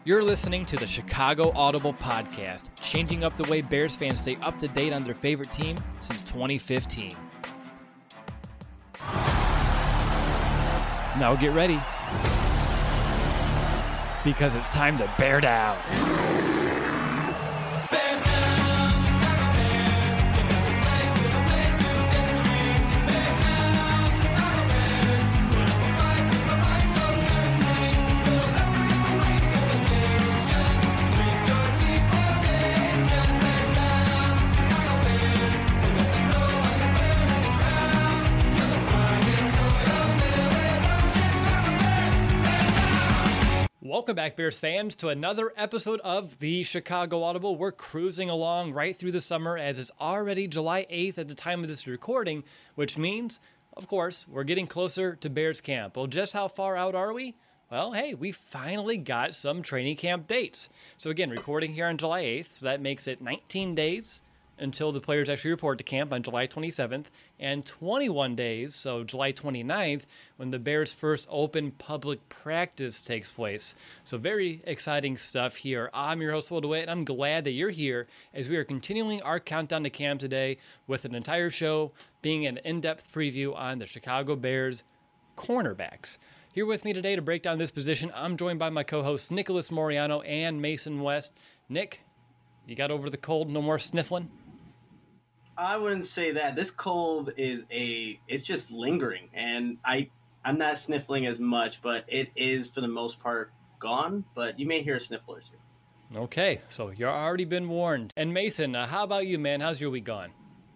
You're listening to the Chicago Audible Podcast, changing up the way Bears fans stay up to date on their favorite team since 2015. Now get ready, because it's time to bear down. Welcome back, Bears fans, to another episode of the Chicago Audible. We're cruising along right through the summer as it's already July 8th at the time of this recording, which means, of course, we're getting closer to Bears camp. Well, just how far out are we? Well, hey, we finally got some training camp dates. So again, recording here on July 8th, so that makes it 19 days until the players actually report to camp on July 27th, and 21 days, so July 29th, when the Bears' first open public practice takes place. So very exciting stuff here. I'm your host, Will DeWitt, and I'm glad that you're here as we are continuing our countdown to camp today with an entire show being an in-depth preview on the Chicago Bears cornerbacks. Here with me today to break down this position, I'm joined by my co-hosts Nicholas Moriano and Mason West. Nick, you got over the cold? No more sniffling? I wouldn't say that. This cold it's just lingering, and I'm not sniffling as much, but it is for the most part gone, but you may hear a sniffle or two. Okay, so you've already been warned. And Mason, how about you, man? How's your week gone?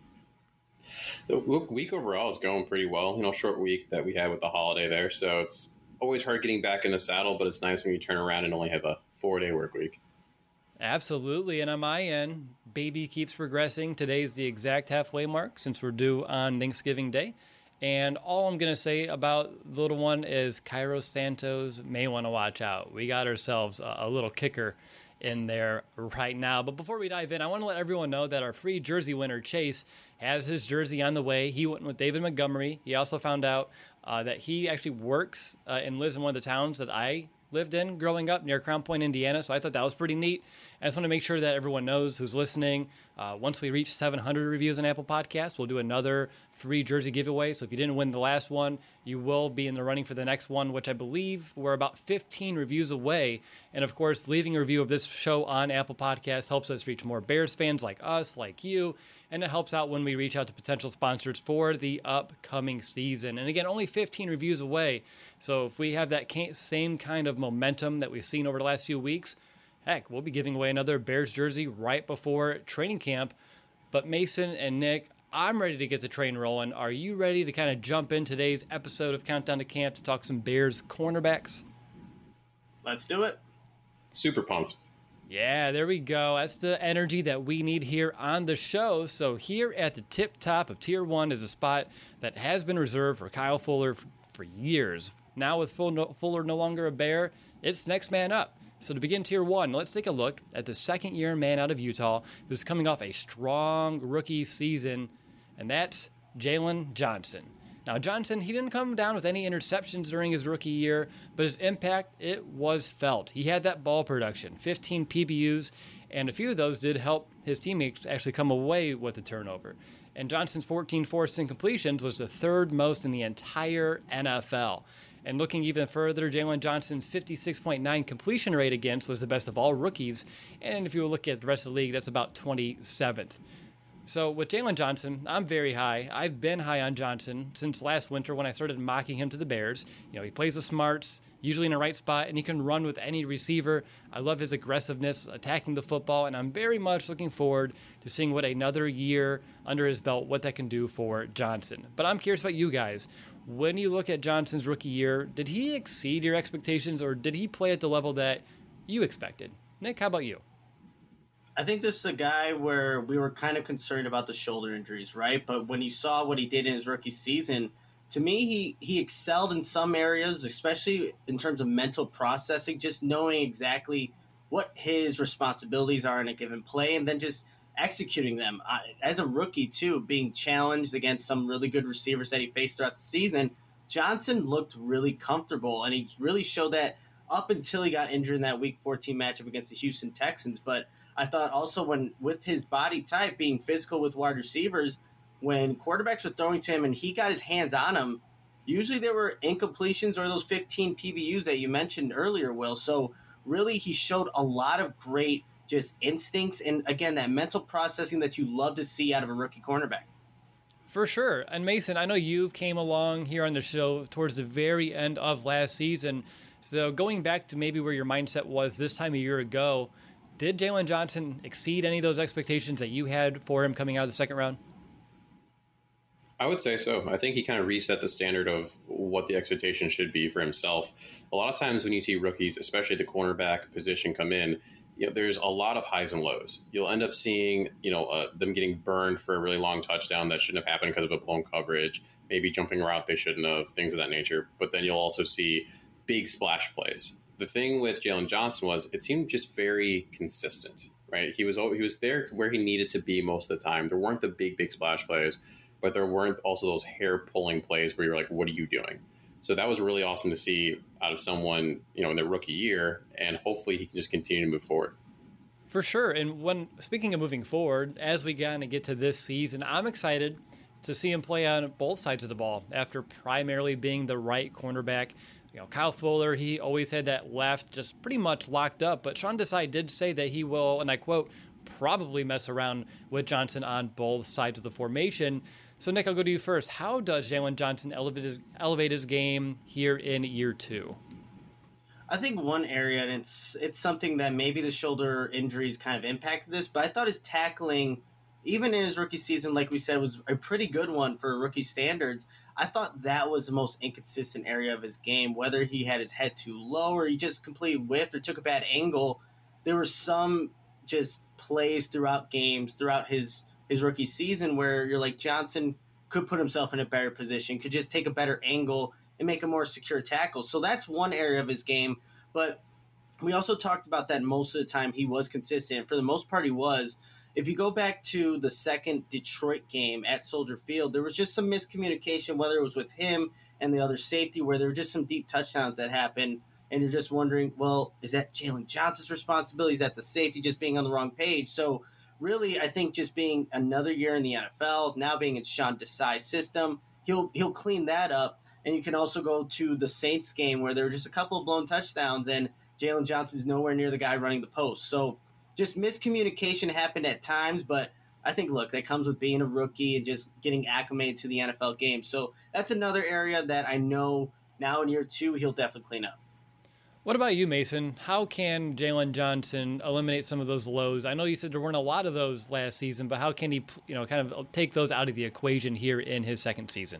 The week overall is going pretty well. Short week that we had with the holiday there, so it's always hard getting back in the saddle, but it's nice when you turn around and only have a 4-day work week. Absolutely, and on my end, baby keeps progressing. Today's the exact halfway mark since we're due on Thanksgiving Day. And all I'm going to say about the little one is Cairo Santos may want to watch out. We got ourselves a little kicker in there right now. But before we dive in, I want to let everyone know that our free jersey winner, Chase, has his jersey on the way. He went with David Montgomery. He also found out that he actually works and lives in one of the towns that I lived in growing up near Crown Point, Indiana. So I thought that was pretty neat. I just want to make sure that everyone knows who's listening. Once we reach 700 reviews on Apple Podcasts, we'll do another free jersey giveaway. So if you didn't win the last one, you will be in the running for the next one, which I believe we're about 15 reviews away. And of course, leaving a review of this show on Apple Podcasts helps us reach more Bears fans like us, like you, and it helps out when we reach out to potential sponsors for the upcoming season. And again, only 15 reviews away. So if we have that same kind of momentum that we've seen over the last few weeks, heck, we'll be giving away another Bears jersey right before training camp. But Mason and Nick, I'm ready to get the train rolling. Are you ready to kind of jump in today's episode of Countdown to Camp to talk some Bears cornerbacks? Let's do it. Super pumped. Yeah, there we go. That's the energy that we need here on the show. So here at the tip top of Tier 1 is a spot that has been reserved for Kyle Fuller for years. Now with Fuller no longer a Bear, it's next man up. So to begin Tier 1, let's take a look at the second-year man out of Utah who's coming off a strong rookie season, and that's Jaylon Johnson. Now, Johnson, he didn't come down with any interceptions during his rookie year, but his impact, it was felt. He had that ball production, 15 PBUs, and a few of those did help his teammates actually come away with a turnover. And Johnson's 14 forced incompletions was the third most in the entire NFL. And looking even further, Jaylon Johnson's 56.9 completion rate against was the best of all rookies. And if you look at the rest of the league, that's about 27th. So with Jaylon Johnson, I'm very high. I've been high on Johnson since last winter when I started mocking him to the Bears. He plays with smarts, usually in the right spot, and he can run with any receiver. I love his aggressiveness, attacking the football, and I'm very much looking forward to seeing what another year under his belt, what that can do for Johnson. But I'm curious about you guys. When you look at Johnson's rookie year, did he exceed your expectations, or did he play at the level that you expected? Nick, how about you? I think this is a guy where we were kind of concerned about the shoulder injuries, right? But when you saw what he did in his rookie season, to me, he excelled in some areas, especially in terms of mental processing, just knowing exactly what his responsibilities are in a given play and then just executing them. As a rookie, too, being challenged against some really good receivers that he faced throughout the season, Johnson looked really comfortable, and he really showed that up until he got injured in that Week 14 matchup against the Houston Texans. But I thought also when with his body type being physical with wide receivers, when quarterbacks were throwing to him and he got his hands on them, usually there were incompletions or those 15 PBUs that you mentioned earlier, Will. So really he showed a lot of great just instincts and, again, that mental processing that you love to see out of a rookie cornerback. For sure. And Mason, I know you came along here on the show towards the very end of last season. So going back to maybe where your mindset was this time a year ago, did Jaylon Johnson exceed any of those expectations that you had for him coming out of the second round? I would say so. I think he kind of reset the standard of what the expectation should be for himself. A lot of times when you see rookies, especially the cornerback position, come in, there's a lot of highs and lows. You'll end up seeing, them getting burned for a really long touchdown that shouldn't have happened because of a blown coverage, maybe jumping a route they shouldn't have, things of that nature. But then you'll also see big splash plays. The thing with Jaylon Johnson was it seemed just very consistent, right? He was there where he needed to be most of the time. There weren't the big splash plays, but there weren't also those hair-pulling plays where you're like, what are you doing? So that was really awesome to see out of someone, in their rookie year, and hopefully he can just continue to move forward. For sure. And speaking of moving forward, as we kind of get to this season, I'm excited to see him play on both sides of the ball after primarily being the right cornerback. Kyle Fuller, he always had that left just pretty much locked up, but Sean Desai did say that he will, and I quote, probably mess around with Johnson on both sides of the formation. So, Nick, I'll go to you first. How does Jaylon Johnson elevate his game here in year two? I think one area, and it's something that maybe the shoulder injuries kind of impacted this, but I thought his tackling, even in his rookie season, like we said, was a pretty good one for rookie standards. I thought that was the most inconsistent area of his game, whether he had his head too low or he just completely whiffed or took a bad angle. There were some just plays throughout games, throughout his rookie season where you're like, Johnson could put himself in a better position, could just take a better angle and make a more secure tackle. So that's one area of his game. But we also talked about that most of the time he was consistent. For the most part, he was. If you go back to the second Detroit game at Soldier Field, there was just some miscommunication, whether it was with him and the other safety, where there were just some deep touchdowns that happened. And you're just wondering, well, is that Jaylon Johnson's responsibility? Is that the safety just being on the wrong page? So really, I think just being another year in the NFL, now being in Sean Desai's system, he'll clean that up. And you can also go to the Saints game where there were just a couple of blown touchdowns and Jaylon Johnson's nowhere near the guy running the post. So just miscommunication happened at times, but I think, look, that comes with being a rookie and just getting acclimated to the NFL game. So that's another area that I know now in year two he'll definitely clean up. What about you, Mason? How can Jaylon Johnson eliminate some of those lows? I know you said there weren't a lot of those last season, but how can he, kind of take those out of the equation here in his second season?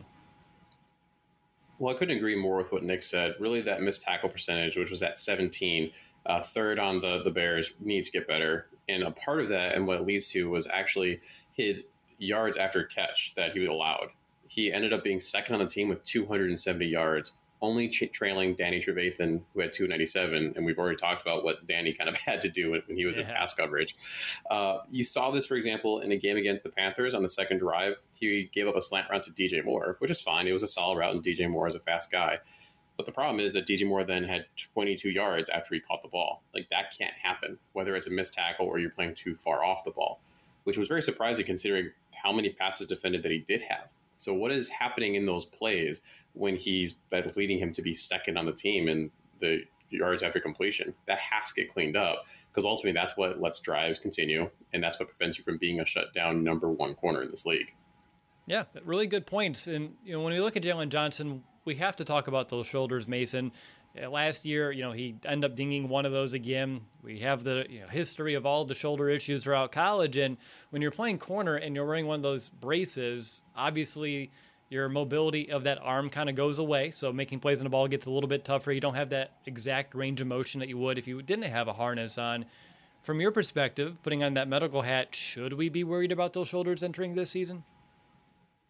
Well, I couldn't agree more with what Nick said. Really, that missed tackle percentage, which was at 17, third on the Bears, needs to get better. And a part of that, and what it leads to, was actually his yards after catch that he allowed. He ended up being second on the team with 270 yards, only trailing Danny Trevathan, who had 297. And we've already talked about what Danny kind of had to do when he was in pass coverage. You saw this, for example, in a game against the Panthers on the second drive. He gave up a slant route to DJ Moore, which is fine. It was a solid route, and DJ Moore is a fast guy. But the problem is that DJ Moore then had 22 yards after he caught the ball. Like, that can't happen, whether it's a missed tackle or you're playing too far off the ball, which was very surprising considering how many passes defended that he did have. So what is happening in those plays when that's leading him to be second on the team in the yards after completion? That has to get cleaned up, because ultimately that's what lets drives continue, and that's what prevents you from being a shutdown number one corner in this league. Yeah, really good points. And when we look at Jaylon Johnson, we have to talk about those shoulders, Mason. Last year, he ended up dinging one of those again. We have the history of all the shoulder issues throughout college, and when you're playing corner and you're wearing one of those braces, obviously your mobility of that arm kind of goes away, so making plays on the ball gets a little bit tougher. You don't have that exact range of motion that you would if you didn't have a harness on. From your perspective, putting on that medical hat, should we be worried about those shoulders entering this season?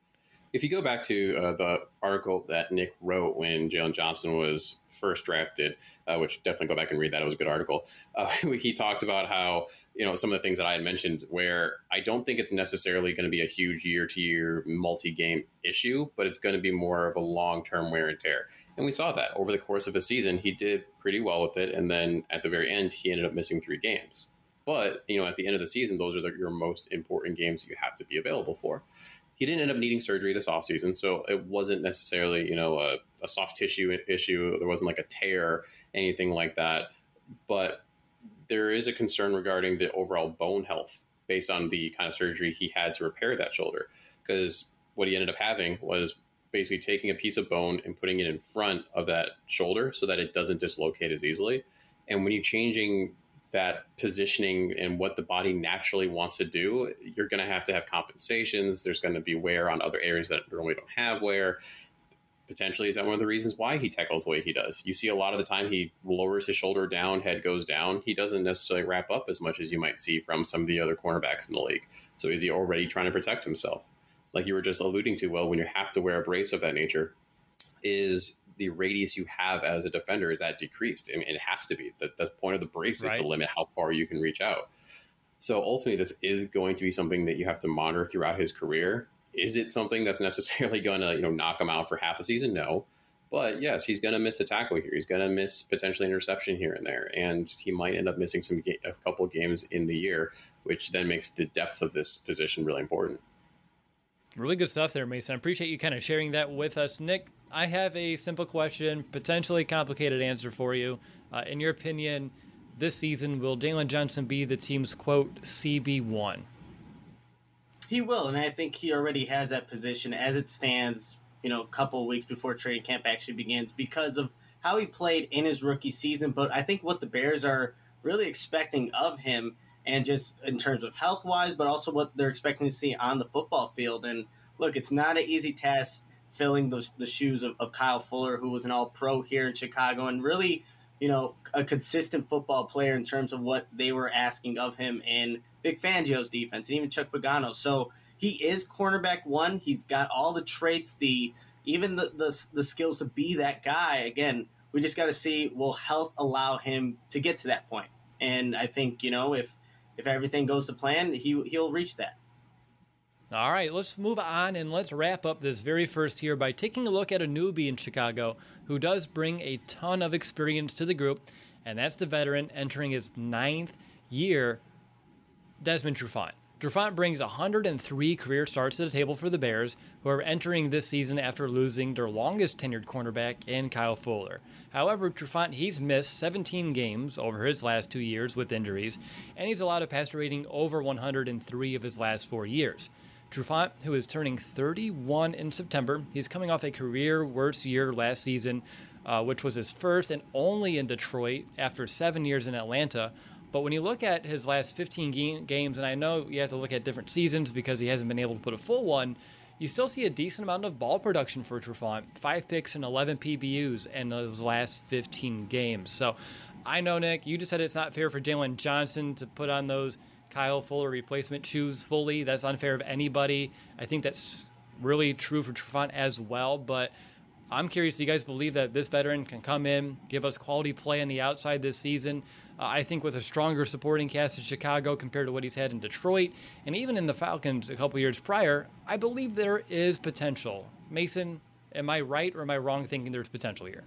If you go back to the article that Nick wrote when Jalen Johnson was first drafted, which definitely go back and read that. It was a good article. He talked about how, some of the things that I had mentioned where I don't think it's necessarily going to be a huge year-to-year multi-game issue, but it's going to be more of a long-term wear and tear. And we saw that over the course of a season. He did pretty well with it. And then at the very end, he ended up missing 3 games. But, at the end of the season, those are your most important games you have to be available for. He didn't end up needing surgery this offseason, so it wasn't necessarily, a soft tissue issue. There wasn't like a tear, anything like that. But there is a concern regarding the overall bone health based on the kind of surgery he had to repair that shoulder. Because what he ended up having was basically taking a piece of bone and putting it in front of that shoulder so that it doesn't dislocate as easily. And when you're changing that positioning and what the body naturally wants to do, you're going to have compensations. There's going to be wear on other areas that normally don't have wear. Potentially, is that one of the reasons why he tackles the way he does? You see a lot of the time he lowers his shoulder down, head goes down. He doesn't necessarily wrap up as much as you might see from some of the other cornerbacks in the league. So is he already trying to protect himself? Like you were just alluding to, well, when you have to wear a brace of that nature, is the radius you have as a defender, is that decreased? I mean, it has to be. The point of the brace is to limit how far you can reach out. So ultimately, this is going to be something that you have to monitor throughout his career. Is it something that's necessarily going to knock him out for half a season? No. But yes, he's going to miss a tackle here. He's going to miss potentially an interception here and there. And he might end up missing a couple of games in the year, which then makes the depth of this position really important. Really good stuff there, Mason. I appreciate you kind of sharing that with us. Nick, I have a simple question, potentially complicated answer for you. In your opinion, this season, will Jalen Johnson be the team's, quote, CB1? He will, and I think he already has that position as it stands, a couple of weeks before training camp actually begins because of how he played in his rookie season. But I think what the Bears are really expecting of him, and just in terms of health-wise, but also what they're expecting to see on the football field. And look, it's not an easy task filling the shoes of Kyle Fuller, who was an all-pro here in Chicago, and really, a consistent football player in terms of what they were asking of him in Vic Fangio's defense, and even Chuck Pagano. So he is cornerback 1. He's got all the traits, even the skills to be that guy. Again, we just got to see, will health allow him to get to that point? And I think, if everything goes to plan, he'll reach that. All right, let's move on and let's wrap up this very first here by taking a look at a newbie in Chicago who does bring a ton of experience to the group, and that's the veteran entering his 9th year, Desmond Trufant. Trufant brings 103 career starts to the table for the Bears, who are entering this season after losing their longest tenured cornerback in Kyle Fuller. However, Trufant, he's missed 17 games over his last 2 years with injuries, and he's allowed a passer rating over 100 in 3 of his last 4 years. Trufant, who is turning 31 in September, he's coming off a career worst year last season, which was his first and only in Detroit after 7 years in Atlanta. But when you look at his last 15 games, and I know you have to look at different seasons because he hasn't been able to put a full one, you still see a decent amount of ball production for Trufant. 5 picks and 11 PBUs in those last 15 games. So I know, Nick, you just said it's not fair for Jalen Johnson to put on those Kyle Fuller replacement shoes fully. That's unfair of anybody. I think that's really true for Trufant as well. But I'm curious, do you guys believe that this veteran can come in, give us quality play on the outside this season? I think with a stronger supporting cast in Chicago compared to what he's had in Detroit, and even in the Falcons a couple years prior, I believe there is potential. Mason, am I right or am I wrong thinking there's potential here?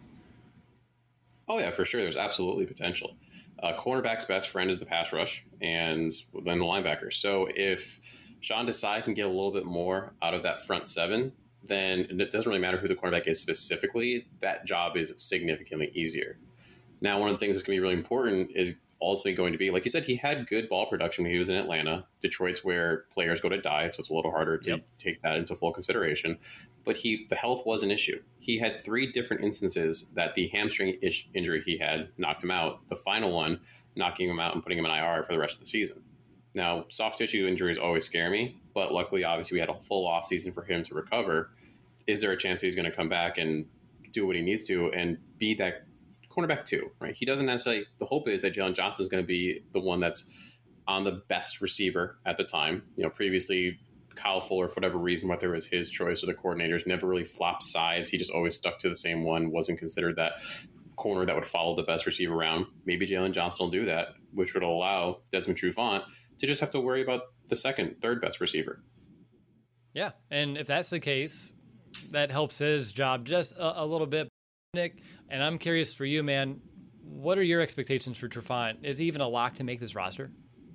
Oh, yeah, for sure. There's absolutely potential. Cornerback's best friend is the pass rush and then the linebackers. So if Sean Desai can get a little bit more out of that front 7, then it doesn't really matter who the cornerback is specifically. That job is significantly easier. Now, one of the things that's going to be really important is ultimately going to be, like you said, he had good ball production when he was in Atlanta. Detroit's where players go to die, so it's a little harder to take that into full consideration. But the health was an issue. He had 3 different instances that the hamstring injury he had knocked him out. The final one knocking him out and putting him in IR for the rest of the season. Now, soft tissue injuries always scare me, but luckily, obviously, we had a full offseason for him to recover. Is there a chance that he's going to come back and do what he needs to and be that cornerback 2, right? He doesn't necessarily, the hope is that Jalen Johnson is going to be the one that's on the best receiver at the time. Previously, Kyle Fuller, for whatever reason, whether it was his choice or the coordinators, never really flopped sides. He just always stuck to the same one, wasn't considered that corner that would follow the best receiver around. Maybe Jalen Johnson will do that, which would allow Desmond Trufant to just have to worry about the second, third best receiver. Yeah, and if that's the case, that helps his job just a little bit, Nick. And I'm curious for you, man, what are your expectations for Trufant? Is he even a lock to make this roster?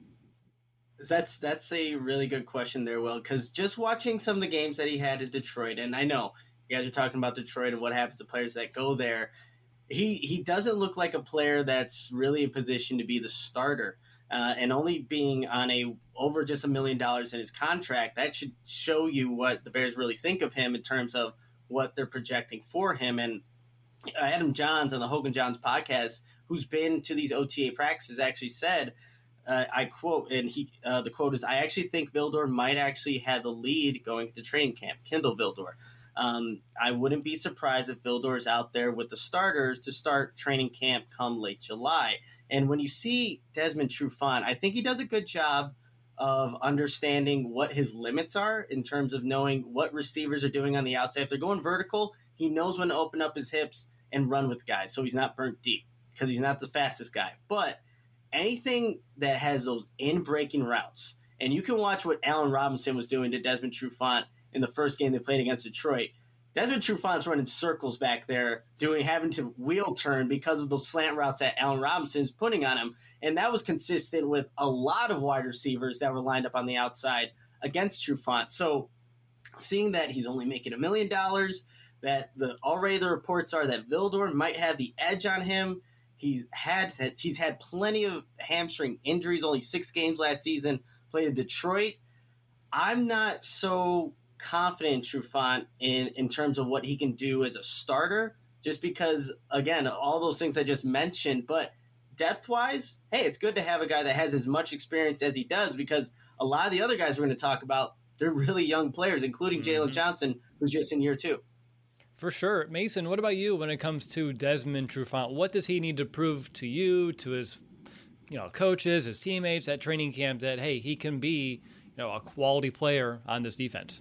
That's a really good question there, Will, because just watching some of the games that he had in Detroit, and I know you guys are talking about Detroit and what happens to players that go there, he doesn't look like a player that's really in position to be the starter. And only being on over just $1 million in his contract, that should show you what the Bears really think of him in terms of what they're projecting for him. And Adam Johns on the Hogan Johns podcast, who's been to these OTA practices, actually said, I quote, and the quote is, "I actually think Vildor might actually have the lead going to training camp." Kindle Vildor. I wouldn't be surprised if Vildor is out there with the starters to start training camp come late July. And when you see Desmond Trufant, I think he does a good job of understanding what his limits are in terms of knowing what receivers are doing on the outside. If they're going vertical, he knows when to open up his hips and run with guys, so he's not burnt deep because he's not the fastest guy. But anything that has those in-breaking routes, and you can watch what Allen Robinson was doing to Desmond Trufant in the first game they played against Detroit. Desmond Trufant's running circles back there, having to wheel turn because of those slant routes that Allen Robinson's putting on him. And that was consistent with a lot of wide receivers that were lined up on the outside against Trufant. So seeing that he's only making $1 million, that already the reports are that Vildor might have the edge on him. He's had plenty of hamstring injuries, only 6 games last season, played in Detroit. I'm not so confident in Trufant in terms of what he can do as a starter, just because, again, all those things I just mentioned. But depth-wise, hey, it's good to have a guy that has as much experience as he does, because a lot of the other guys we're going to talk about, they're really young players, including Jalen Johnson, who's just in year 2. For sure. Mason, what about you when it comes to Desmond Trufant? What does he need to prove to you, to his coaches, his teammates at training camp, that, hey, he can be a quality player on this defense?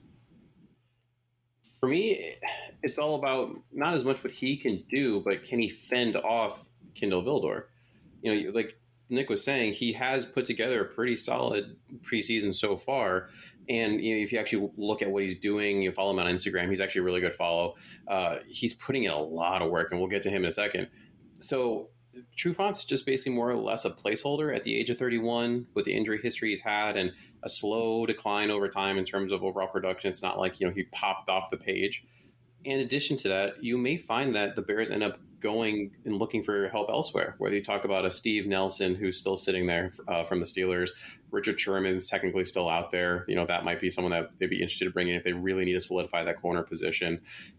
For me, it's all about not as much what he can do, but can he fend off Kindle Vildor? Like Nick was saying, he has put together a pretty solid preseason so far. And if you actually look at what he's doing, you follow him on Instagram, he's actually a really good follow. He's putting in a lot of work, and we'll get to him in a second. So Trufant's just basically more or less a placeholder at the age of 31 with the injury history he's had and a slow decline over time in terms of overall production. It's not like, he popped off the page. In addition to that, you may find that the Bears end up going and looking for help elsewhere, whether you talk about a Steve Nelson, who's still sitting there from the Steelers. Richard Sherman's technically still out there. That might be someone that they'd be interested in bringing if they really need to solidify that corner position.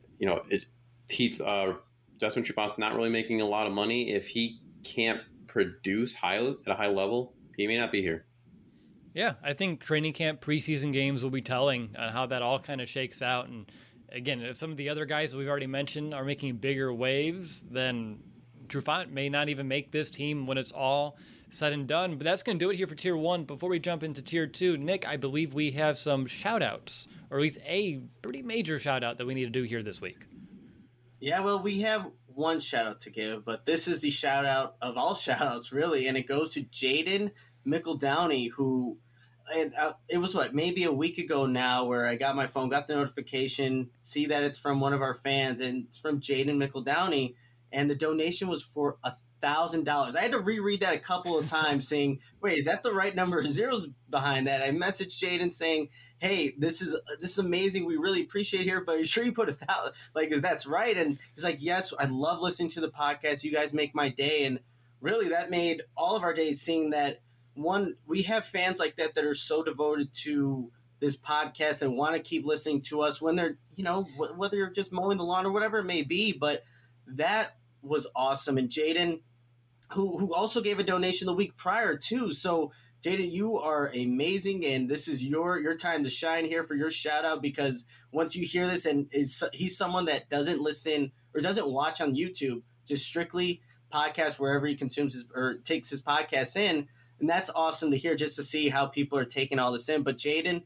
Desmond Trufant's not really making a lot of money. If he can't produce at a high level, he may not be here. Yeah, I think training camp preseason games will be telling on how that all kind of shakes out. And again, if some of the other guys that we've already mentioned are making bigger waves, then Trufant may not even make this team when it's all said and done. But that's going to do it here for Tier 1. Before we jump into Tier 2, Nick, I believe we have some shout-outs, or at least a pretty major shout-out that we need to do here this week. Yeah, well, we have one shout-out to give, but this is the shout-out of all shout-outs, really, and it goes to Jaden McEldowney, who it was, maybe a week ago now, where I got my phone, got the notification, see that it's from one of our fans, and it's from Jaden McEldowney, and the donation was for $1,000. I had to reread that a couple of times saying, wait, is that the right number of zeros behind that? I messaged Jaden saying, hey, this is amazing. We really appreciate it here, but are you sure you put 1,000? Is that's right? And he's like, yes, I love listening to the podcast. You guys make my day. And really that made all of our days, seeing that, one, we have fans like that are so devoted to this podcast and want to keep listening to us when they're, whether you're just mowing the lawn or whatever it may be. But that was awesome. And Jaden, who also gave a donation the week prior too. So Jaden, you are amazing, and this is your time to shine here for your shout out, because once you hear this, and he's someone that doesn't listen or doesn't watch on YouTube, just strictly podcast wherever he consumes or takes his podcasts in. And that's awesome to hear, just to see how people are taking all this in. But Jaden,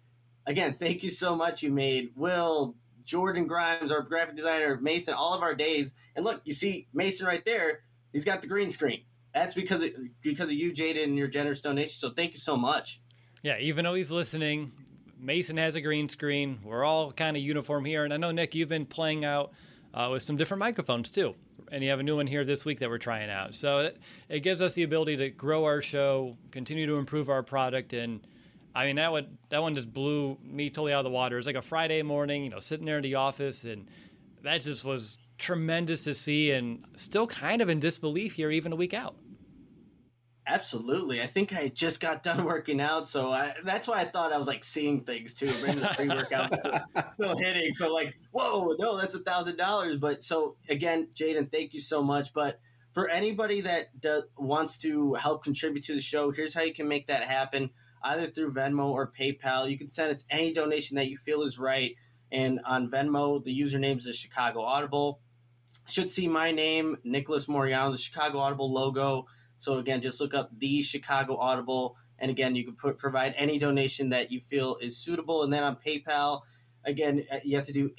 again, thank you so much. You made Will, Jordan Grimes, our graphic designer, Mason, all of our days. And look, you see Mason right there. He's got the green screen. That's because of you, Jaden, and your generous donation. So thank you so much. Yeah, even though he's listening, Mason has a green screen. We're all kind of uniform here. And I know, Nick, you've been playing out with some different microphones too. And you have a new one here this week that we're trying out. So it gives us the ability to grow our show, continue to improve our product. And I mean, that one just blew me totally out of the water. It was like a Friday morning, sitting there in the office. And that just was tremendous to see, and still kind of in disbelief here even a week out. Absolutely. I think I just got done working out, so that's why I thought I was like seeing things too. Maybe the pre-workout was still hitting. So like, whoa, no, that's $1,000. But so again, Jaden, thank you so much. But for anybody that wants to help contribute to the show, here's how you can make that happen, either through Venmo or PayPal. You can send us any donation that you feel is right. And on Venmo, the username is the Chicago Audible. Should see my name, Nicholas Moriano, the Chicago Audible logo. So again, just look up the Chicago Audible. And again, you can provide any donation that you feel is suitable. And then on PayPal, again, you have to do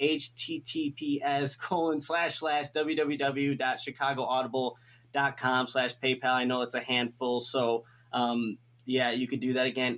https://www.chicagoaudible.com/PayPal. I know it's a handful. So yeah, you could do that again,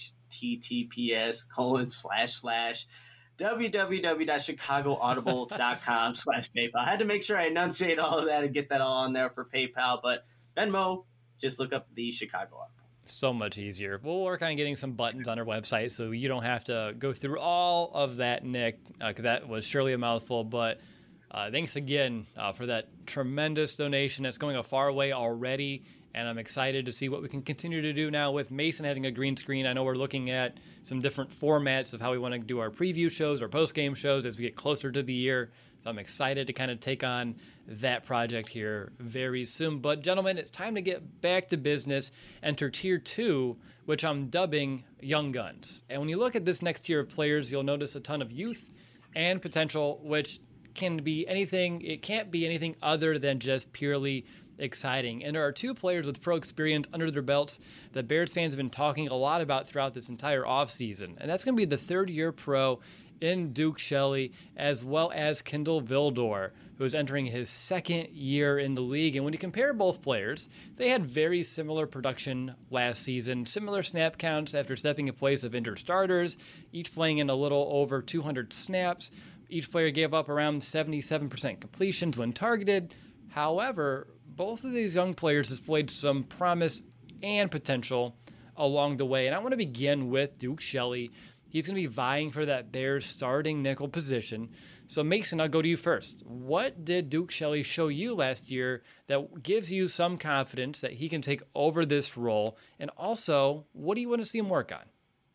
https://www.chicagoaudible.com/PayPal. I had to make sure I enunciate all of that and get that all on there for PayPal. But Venmo, just look up the Chicago Audible. So much easier. We'll work on getting some buttons on our website so you don't have to go through all of that, Nick, because that was surely a mouthful. But thanks again for that tremendous donation. That's going a far way already, and I'm excited to see what we can continue to do now with Mason having a green screen. I know we're looking at some different formats of how we want to do our preview shows or post-game shows as we get closer to the year. So I'm excited to kind of take on that project here very soon. But gentlemen, it's time to get back to business. Enter Tier 2, which I'm dubbing Young Guns. And when you look at this next tier of players, you'll notice a ton of youth and potential, which can be anything. It can't be anything other than just purely exciting. And there are two players with pro experience under their belts that Bears fans have been talking a lot about throughout this entire offseason. And that's going to be the third-year pro in Duke Shelley, as well as Kindle Vildor, who is entering his second year in the league. And when you compare both players, they had very similar production last season, similar snap counts after stepping in place of injured starters, each playing in a little over 200 snaps. Each player gave up around 77% completions when targeted. However, both of these young players displayed some promise and potential along the way. And I want to begin with Duke Shelley. He's going to be vying for that Bears starting nickel position. So Mason, I'll go to you first. What did Duke Shelley show you last year that gives you some confidence that he can take over this role? And also, what do you want to see him work on?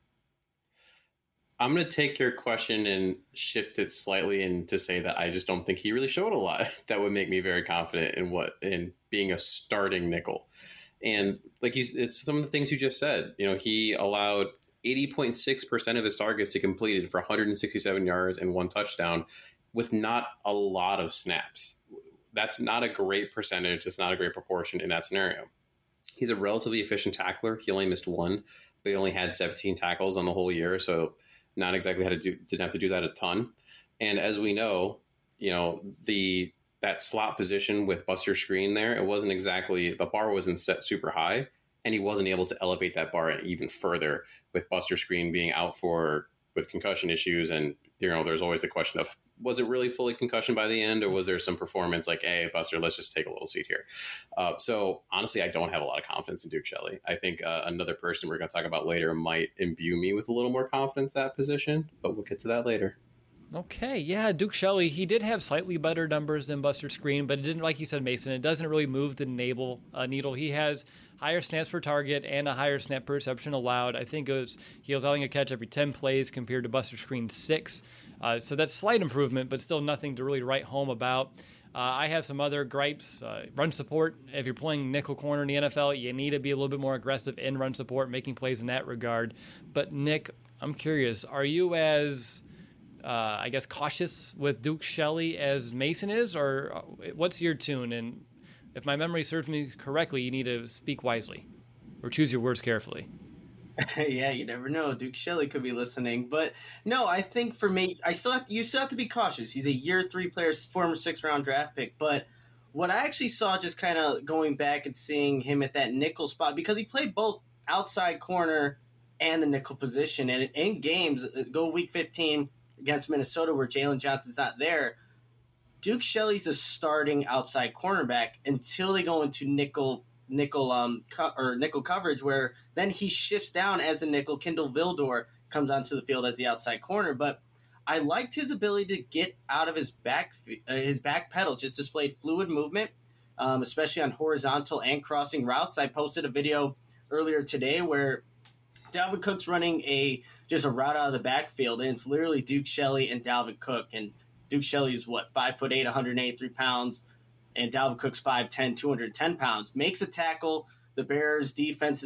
I'm going to take your question and shift it slightly and to say that I just don't think he really showed a lot that would make me very confident in being a starting nickel. And like it's some of the things you just said. He allowed 80.6% of his targets to completed for 167 yards and 1 touchdown with not a lot of snaps. That's not a great percentage. It's not a great proportion in that scenario. He's a relatively efficient tackler. He only missed 1, but he only had 17 tackles on the whole year. So not exactly didn't have to do that a ton. And as we know, that slot position with Buster Skrine there, it wasn't exactly, the bar wasn't set super high. And he wasn't able to elevate that bar even further with Buster Skrine being out with concussion issues. And, there's always the question of, was it really fully concussion by the end, or was there some performance like, hey, Buster, let's just take a little seat here. So honestly, I don't have a lot of confidence in Duke Shelley. I think another person we're going to talk about later might imbue me with a little more confidence at that position, but we'll get to that later. Okay, yeah, Duke Shelley, he did have slightly better numbers than Buster Skrine, but it didn't, like you said, Mason, it doesn't really move the needle. He has higher snaps per target and a higher snap per reception allowed. I think he was allowing a catch every 10 plays compared to Buster Skrine's 6. So that's slight improvement, but still nothing to really write home about. I have some other gripes. Run support, if you're playing nickel corner in the NFL, you need to be a little bit more aggressive in run support, making plays in that regard. But Nick, I'm curious, are you as cautious with Duke Shelley as Mason is, or what's your tune? And if my memory serves me correctly, you need to speak wisely or choose your words carefully. Yeah, you never know. Duke Shelley could be listening, but no, I think for me, you still have to be cautious. He's a year 3 player, former 6th round draft pick. But what I actually saw, just kind of going back and seeing him at that nickel spot, because he played both outside corner and the nickel position, and in games, go week 15 against Minnesota where Jalen Johnson's not there. Duke Shelley's a starting outside cornerback until they go into nickel coverage, where then he shifts down as a nickel. Kindle Vildor comes onto the field as the outside corner. But I liked his ability to get out of his back pedal, just displayed fluid movement, especially on horizontal and crossing routes. I posted a video earlier today where Dalvin Cook's running just a route out of the backfield, and it's literally Duke Shelley and Dalvin Cook. And Duke Shelley's 5'8", 183 pounds, and Dalvin Cook's 5'10", 210 pounds. Makes a tackle. The Bears' defense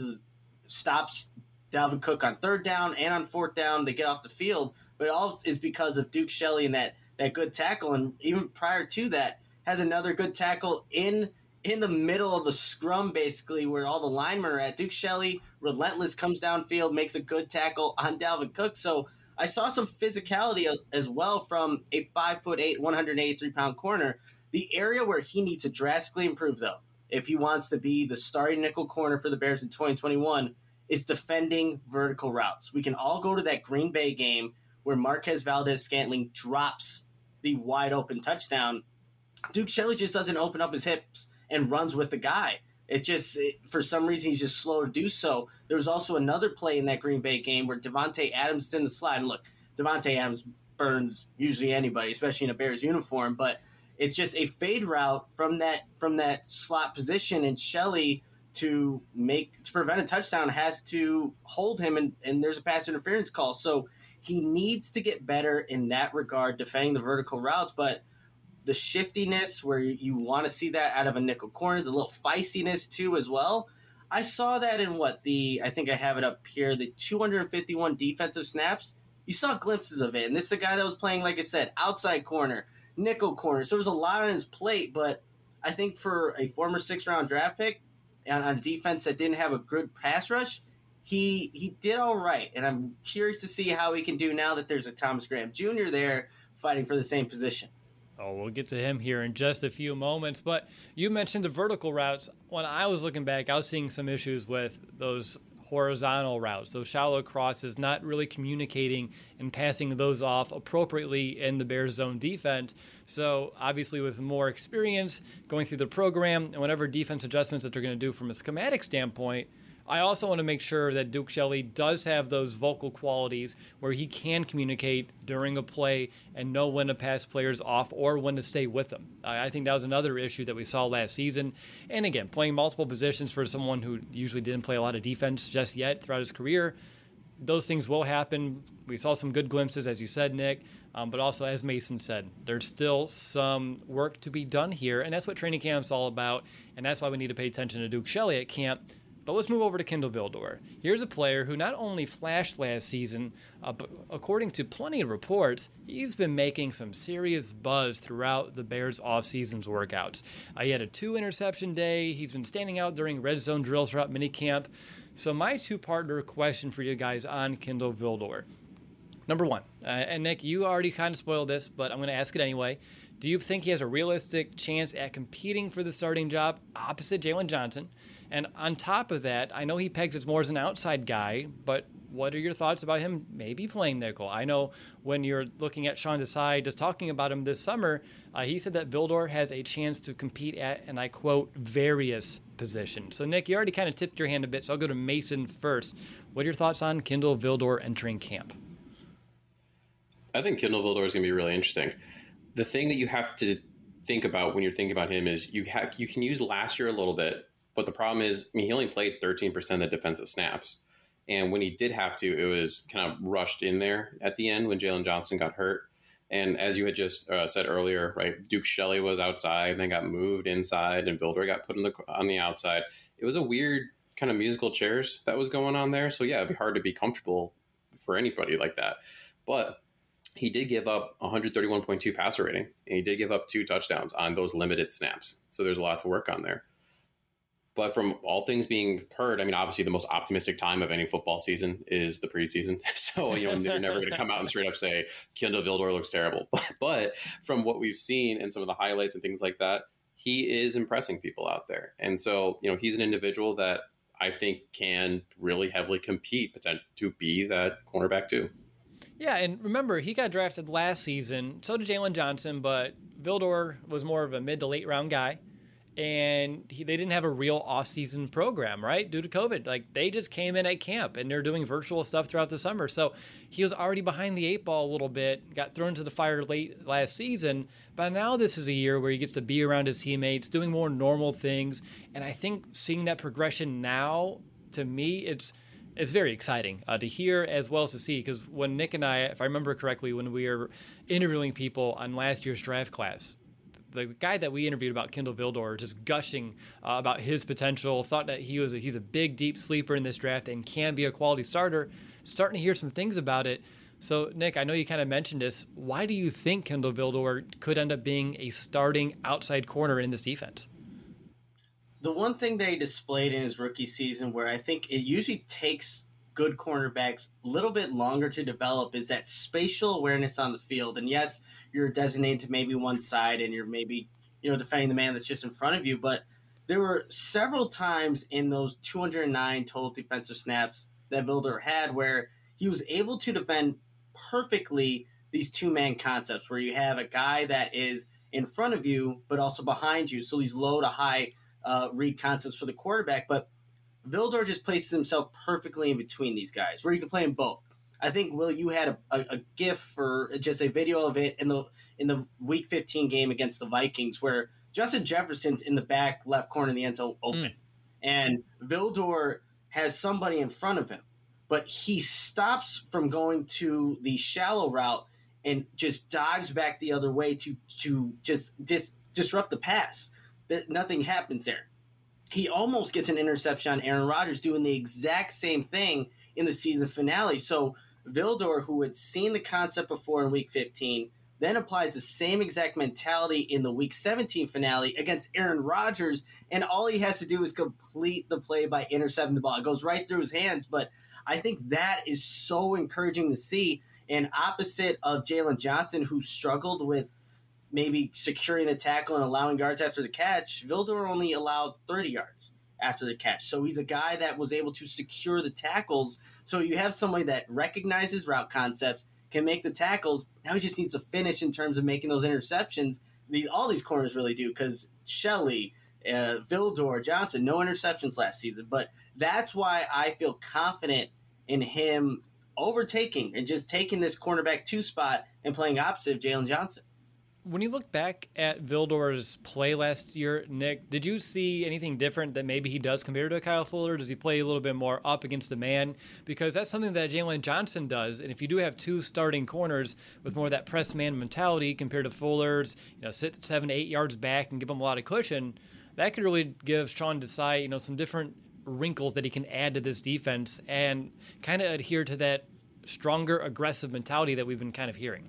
stops Dalvin Cook on 3rd down and on 4th down. They get off the field, but it all is because of Duke Shelley and that good tackle. And even prior to that, has another good tackle in the middle of the scrum, basically, where all the linemen are at. Duke Shelley, relentless, comes downfield, makes a good tackle on Dalvin Cook. So I saw some physicality as well from a 5'8", 183-pound corner. The area where he needs to drastically improve, though, if he wants to be the starting nickel corner for the Bears in 2021, is defending vertical routes. We can all go to that Green Bay game where Marquez Valdez-Scantling drops the wide-open touchdown. Duke Shelley just doesn't open up his hips and runs with the guy. For some reason, he's just slow to do so. There was also another play in that Green Bay game where Devontae Adams is in the slide. And look, Devontae Adams burns usually anybody, especially in a Bears uniform, but it's just a fade route from that slot position, and Shelley, to prevent a touchdown, has to hold him, and there's a pass interference call. So he needs to get better in that regard, defending the vertical routes, but the shiftiness where you want to see that out of a nickel corner, the little feistiness too as well. I saw that in I think I have it up here, the 251 defensive snaps. You saw glimpses of it, and this is a guy that was playing, like I said, outside corner, nickel corner. So there was a lot on his plate, but I think for a former 6th-round draft pick and on a defense that didn't have a good pass rush, he did all right. And I'm curious to see how he can do now that there's a Thomas Graham Jr. there fighting for the same position. Oh, we'll get to him here in just a few moments. But you mentioned the vertical routes. When I was looking back, I was seeing some issues with those horizontal routes, those shallow crosses, not really communicating and passing those off appropriately in the Bears zone defense. So obviously with more experience going through the program and whatever defense adjustments that they're going to do from a schematic standpoint, I also want to make sure that Duke Shelley does have those vocal qualities where he can communicate during a play and know when to pass players off or when to stay with them. I think that was another issue that we saw last season. And again, playing multiple positions for someone who usually didn't play a lot of defense just yet throughout his career, those things will happen. We saw some good glimpses, as you said, Nick, but also, as Mason said, there's still some work to be done here, and that's what training camp's all about, and that's why we need to pay attention to Duke Shelley at camp. But let's move over to Kindle Vildor. Here's a player who not only flashed last season, but according to plenty of reports, he's been making some serious buzz throughout the Bears' offseason's workouts. He had a 2-interception day. He's been standing out during red zone drills throughout minicamp. So my two-partner question for you guys on Kindle Vildor. Number one, and Nick, you already kind of spoiled this, but I'm going to ask it anyway. Do you think he has a realistic chance at competing for the starting job opposite Jalen Johnson? And on top of that, I know he pegs as more as an outside guy, but what are your thoughts about him maybe playing nickel? I know when you're looking at Sean Desai, just talking about him this summer, he said that Vildor has a chance to compete at, and I quote, various positions. So, Nick, you already kind of tipped your hand a bit, so I'll go to Mason first. What are your thoughts on Kindle Vildor entering camp? I think Kindle Vildor is going to be really interesting. The thing that you have to think about when you're thinking about him is you can use last year a little bit, but the problem is, he only played 13% of the defensive snaps. And when he did have to, it was kind of rushed in there at the end when Jalen Johnson got hurt. And as you had just said earlier, right, Duke Shelley was outside and then got moved inside, and Vildor got put on the outside. It was a weird kind of musical chairs that was going on there. So, yeah, it'd be hard to be comfortable for anybody like that. But he did give up 131.2 passer rating, and he did give up 2 touchdowns on those limited snaps. So there's a lot to work on there. But from all things being heard, I mean, obviously the most optimistic time of any football season is the preseason. So, you're never going to come out and straight up say Kindle Vildor looks terrible. But from what we've seen and some of the highlights and things like that, he is impressing people out there. And so, he's an individual that I think can really heavily compete to be that cornerback too. Yeah, and remember, he got drafted last season. So did Jalen Johnson, but Vildor was more of a mid to late round guy. And they didn't have a real off-season program, right, due to COVID. Like, they just came in at camp, and they're doing virtual stuff throughout the summer. So he was already behind the 8 ball a little bit, got thrown into the fire late last season. But now this is a year where he gets to be around his teammates, doing more normal things. And I think seeing that progression now, to me, it's very exciting to hear as well as to see. Because when Nick and I, if I remember correctly, when we were interviewing people on last year's draft class, the guy that we interviewed about Kindle Vildor, just gushing about his potential, thought that he's a big, deep sleeper in this draft and can be a quality starter. Starting to hear some things about it. So, Nick, I know you kind of mentioned this. Why do you think Kindle Vildor could end up being a starting outside corner in this defense? The one thing that he displayed in his rookie season, where I think it usually takes good cornerbacks a little bit longer to develop, is that spatial awareness on the field. And yes, you're designated to maybe one side and you're maybe, defending the man that's just in front of you. But there were several times in those 209 total defensive snaps that Vildor had where he was able to defend perfectly these two-man concepts where you have a guy that is in front of you but also behind you. So these low to high read concepts for the quarterback. But Vildor just places himself perfectly in between these guys, where you can play them both. I think, Will, you had a GIF for just a video of it in the Week 15 game against the Vikings, where Justin Jefferson's in the back left corner in the end zone open, and Vildor has somebody in front of him, but he stops from going to the shallow route and just dives back the other way to just disrupt the pass. That nothing happens there. He almost gets an interception on Aaron Rodgers doing the exact same thing in the season finale. So Vildor, who had seen the concept before in Week 15, then applies the same exact mentality in the Week 17 finale against Aaron Rodgers, and all he has to do is complete the play by intercepting the ball. It goes right through his hands, but I think that is so encouraging to see. And opposite of Jalen Johnson, who struggled with maybe securing the tackle and allowing yards after the catch, Vildor only allowed 30 yards after the catch. So he's a guy that was able to secure the tackles. So you have somebody that recognizes route concepts, can make the tackles. Now he just needs to finish in terms of making those interceptions. All these corners really do, because Shelley, Vildor, Johnson, no interceptions last season. But that's why I feel confident in him overtaking and just taking this cornerback 2 spot and playing opposite of Jalen Johnson. When you look back at Vildor's play last year, Nick, did you see anything different that maybe he does compared to Kyle Fuller? Does he play a little bit more up against the man? Because that's something that Jalen Johnson does. And if you do have 2 starting corners with more of that press man mentality compared to Fuller's, sit 7 to 8 yards back and give him a lot of cushion, that could really give Sean Desai, some different wrinkles that he can add to this defense and kind of adhere to that stronger, aggressive mentality that we've been kind of hearing.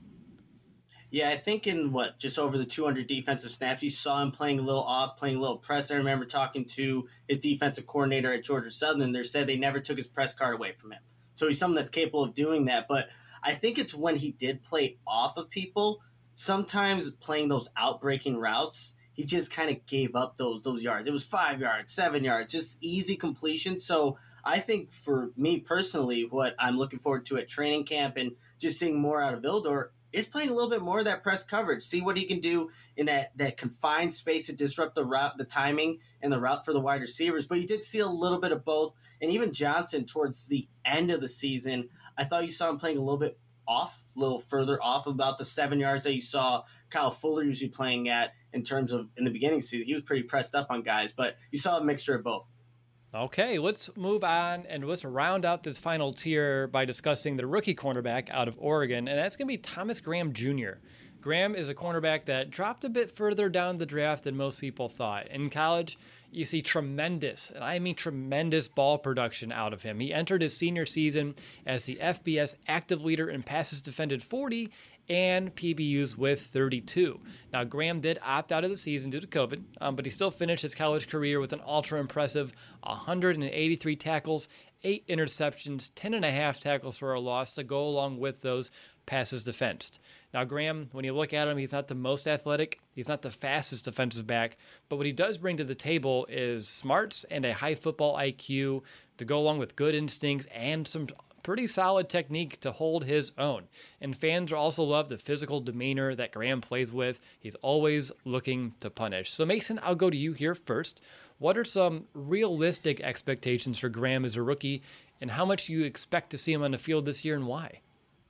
Yeah, I think in just over the 200 defensive snaps, you saw him playing a little off, playing a little press. I remember talking to his defensive coordinator at Georgia Southern. They said they never took his press card away from him. So he's someone that's capable of doing that. But I think it's when he did play off of people, sometimes playing those outbreaking routes, he just kind of gave up those yards. It was 5 yards, 7 yards, just easy completion. So I think for me personally, what I'm looking forward to at training camp and just seeing more out of Vildor is playing a little bit more of that press coverage. See what he can do in that confined space to disrupt the route, the timing, and the route for the wide receivers. But you did see a little bit of both. And even Johnson, towards the end of the season, I thought you saw him playing a little bit off, a little further off, about the 7 yards that you saw Kyle Fuller usually playing at in terms of in the beginning of the season. He was pretty pressed up on guys, but you saw a mixture of both. Okay, let's move on and let's round out this final tier by discussing the rookie cornerback out of Oregon, and that's going to be Thomas Graham Jr. Graham is a cornerback that dropped a bit further down the draft than most people thought. In college, you see tremendous, and I mean tremendous ball production out of him. He entered his senior season as the FBS active leader in passes defended 40 and PBUs with 32. Now, Graham did opt out of the season due to COVID, but he still finished his college career with an ultra-impressive 183 tackles, 8 interceptions, 10.5 tackles for a loss to go along with those passes defensed. Now, Graham, when you look at him, he's not the most athletic. He's not the fastest defensive back. But what he does bring to the table is smarts and a high football IQ to go along with good instincts and some pretty solid technique to hold his own. And fans also love the physical demeanor that Graham plays with. He's always looking to punish. So, Mason, I'll go to you here first. What are some realistic expectations for Graham as a rookie, and how much you expect to see him on the field this year and why?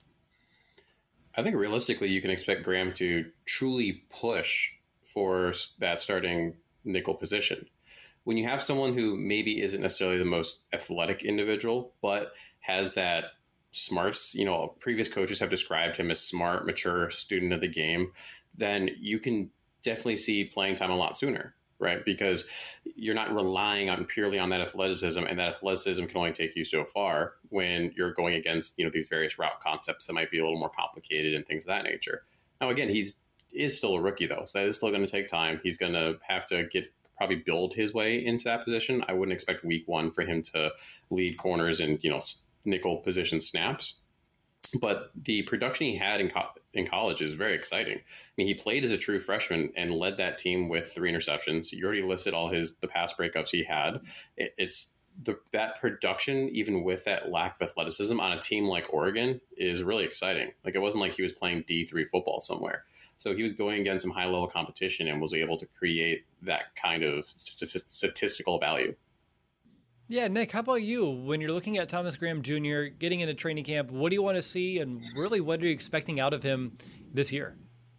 I think realistically, you can expect Graham to truly push for that starting nickel position. When you have someone who maybe isn't necessarily the most athletic individual, but has that smarts, previous coaches have described him as smart, mature student of the game, then you can definitely see playing time a lot sooner, right? Because you're not relying on purely on that athleticism, and that athleticism can only take you so far when you're going against, these various route concepts that might be a little more complicated and things of that nature. Now, again, is still a rookie though, so that is still going to take time. He's going to have to probably build his way into that position. I wouldn't expect week one for him to lead corners and, nickel position snaps. But the production he had in college is very exciting. I mean, he played as a true freshman and led that team with 3 interceptions. You already listed all the pass breakups he had. That production, even with that lack of athleticism on a team like Oregon, is really exciting. Like, it wasn't like he was playing D3 football somewhere. So he was going against some high level competition and was able to create that kind of statistical value. Yeah, Nick, how about you? When you're looking at Thomas Graham Jr. getting into training camp, what do you want to see, and really what are you expecting out of him this year?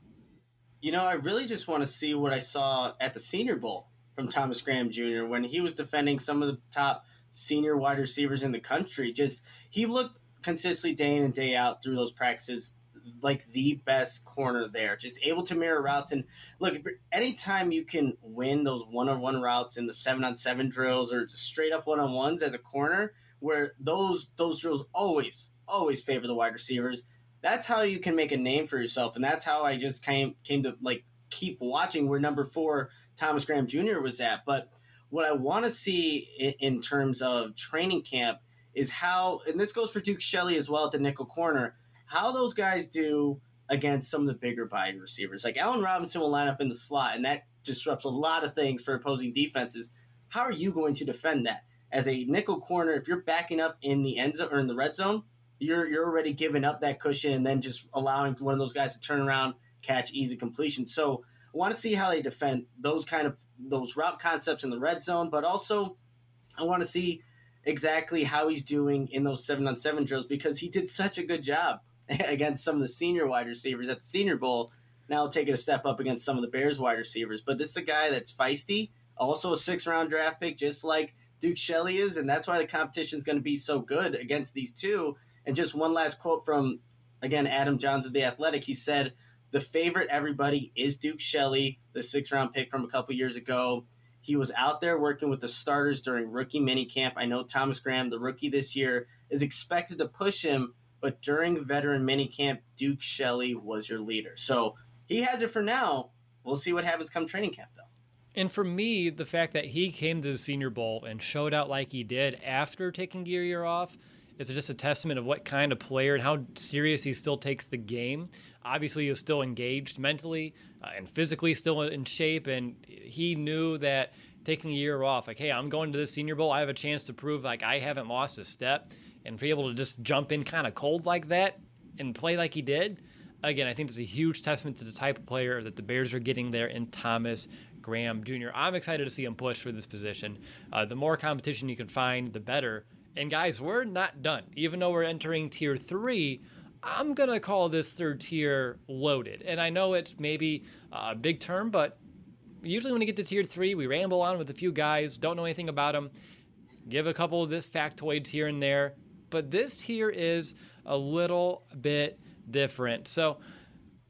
I really just want to see what I saw at the Senior Bowl from Thomas Graham Jr. when he was defending some of the top senior wide receivers in the country. He looked consistently day in and day out through those practices like the best corner there, just able to mirror routes. And look, anytime you can win those one-on-one routes in the 7-on-7 drills or straight up one-on-ones as a corner, where those drills always favor the wide receivers, that's how you can make a name for yourself. And that's how I just came to keep watching where number 4 Thomas Graham Jr. was at. But what I want to see in terms of training camp is how, and this goes for Duke Shelley as well at the nickel corner, how those guys do against some of the bigger body receivers. Like Allen Robinson will line up in the slot, and that disrupts a lot of things for opposing defenses. How are you going to defend that? As a nickel corner, if you're backing up in the end zone or in the red zone, you're already giving up that cushion and then just allowing one of those guys to turn around, catch easy completion. So I want to see how they defend those route concepts in the red zone, but also I want to see exactly how he's doing in those 7-on-7 drills, because he did such a good job against some of the senior wide receivers at the Senior Bowl. Now taking a step up against some of the Bears wide receivers. But this is a guy that's feisty, also a 6th-round draft pick, just like Duke Shelley is, and that's why the competition is going to be so good against these two. And just one last quote from, again, Adam Johns of The Athletic. He said, "The favorite, everybody, is Duke Shelley, the 6th-round pick from a couple years ago. He was out there working with the starters during rookie minicamp. I know Thomas Graham, the rookie this year, is expected to push him, but during veteran minicamp, Duke Shelley was your leader." So he has it for now. We'll see what happens come training camp, though. And for me, the fact that he came to the Senior Bowl and showed out like he did after taking a year off is just a testament of what kind of player and how serious he still takes the game. Obviously, he was still engaged mentally and physically, still in shape, and he knew that taking a year off, like, hey, I'm going to this Senior Bowl, I have a chance to prove like I haven't lost a step, and to be able to just jump in kind of cold like that and play like he did, again, I think it's a huge testament to the type of player that the Bears are getting there in Thomas Graham Jr. I'm excited to see him push for this position. The more competition you can find, the better. And guys, we're not done. Even though we're entering Tier 3, I'm going to call this third tier loaded. And I know it's maybe a big term, but usually when you get to Tier 3, we ramble on with a few guys, don't know anything about them, give a couple of the factoids here and there. But this tier is a little bit different. So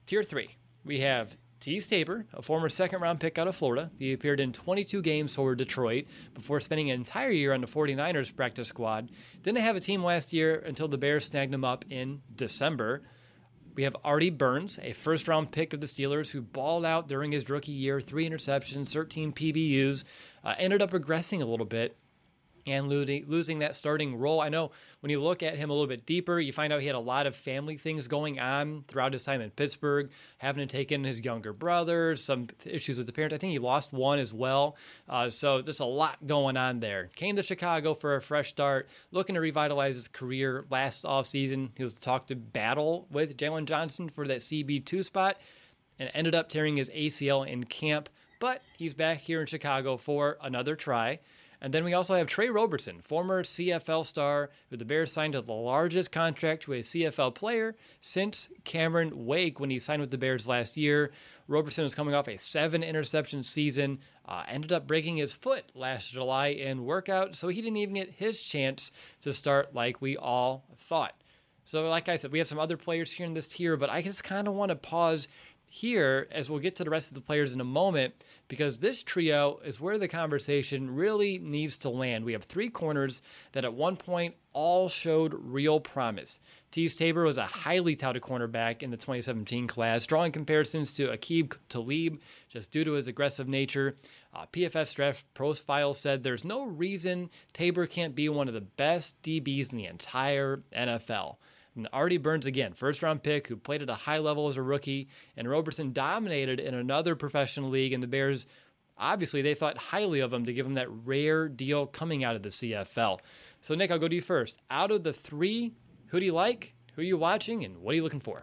Tier 3, we have Tease Tabor, a former second-round pick out of Florida. He appeared in 22 games for Detroit before spending an entire year on the 49ers practice squad. Didn't have a team last year until the Bears snagged him up in December. We have Artie Burns, a first-round pick of the Steelers who balled out during his rookie year, 3 interceptions, 13 PBUs, ended up regressing a little bit and losing that starting role. I know when you look at him a little bit deeper, you find out he had a lot of family things going on throughout his time in Pittsburgh, having to take in his younger brother, some issues with the parents. I think he lost one as well. So there's a lot going on there. Came to Chicago for a fresh start, looking to revitalize his career last offseason. He was talked to battle with Jalen Johnson for that CB2 spot and ended up tearing his ACL in camp. But he's back here in Chicago for another try. And then we also have Trey Roberson, former CFL star, who the Bears signed to the largest contract to a CFL player since Cameron Wake when he signed with the Bears last year. Roberson was coming off a 7-interception season, ended up breaking his foot last July in workout, so he didn't even get his chance to start like we all thought. So like I said, we have some other players here in this tier, but I just kind of want to pause here as we'll get to the rest of the players in a moment, because this trio is where the conversation really needs to land. We have 3 corners that at one point all showed real promise. Tease Tabor was a highly touted cornerback in the 2017 class, drawing comparisons to Aqib Talib just due to his aggressive nature. PFF draft profile said there's no reason Tabor can't be one of the best DBs in the entire NFL. And Artie Burns, again, first-round pick who played at a high level as a rookie, and Roberson dominated in another professional league, and the Bears, obviously, they thought highly of him to give him that rare deal coming out of the CFL. So, Nick, I'll go to you first. Out of the 3, who do you like, who are you watching, and what are you looking for?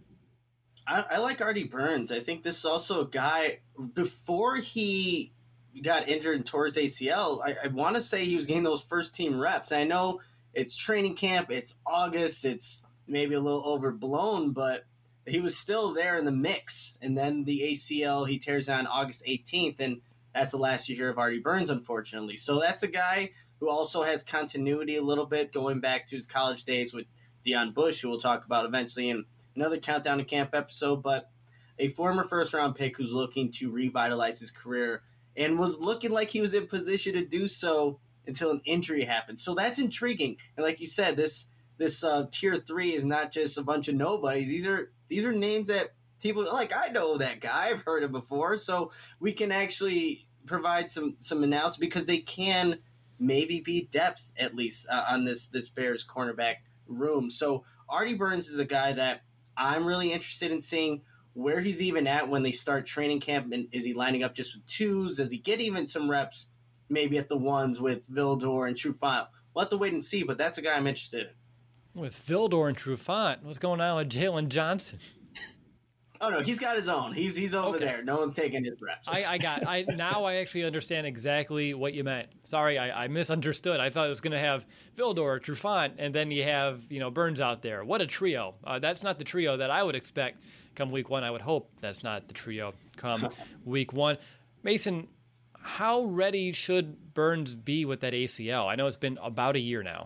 I like Artie Burns. I think this is also a guy, before he got injured and tore his ACL, I want to say he was getting those first-team reps. I know it's training camp, it's August, it's maybe a little overblown, but he was still there in the mix. And then the ACL, he tears on August 18th, and that's the last you hear of Artie Burns, unfortunately. So that's a guy who also has continuity a little bit, going back to his college days with Deion Bush, who we'll talk about eventually in another Countdown to Camp episode, but a former first-round pick who's looking to revitalize his career and was looking like he was in position to do so until an injury happened. So that's intriguing. And like you said, this tier 3 is not just a bunch of nobodies. These are names that people like. I know that guy. I've heard him before. So we can actually provide some analysis, because they can maybe be depth at least on this Bears cornerback room. So Artie Burns is a guy that I'm really interested in seeing where he's even at when they start training camp. And is he lining up just with 2s? Does he get even some reps maybe at the 1s with Vildor and Trufant? We'll have to wait and see, but that's a guy I'm interested in. With Vildor and Trufant, what's going on with Jalen Johnson? Oh, no, he's got his own. He's over there. No one's taking his reps. Now I actually understand exactly what you meant. Sorry, I misunderstood. I thought it was going to have Vildor, Trufant, and then you have Burns out there. What a trio. That's not the trio that I would expect come week 1. I would hope that's not the trio come week 1. Mason, how ready should Burns be with that ACL? I know it's been about a year now.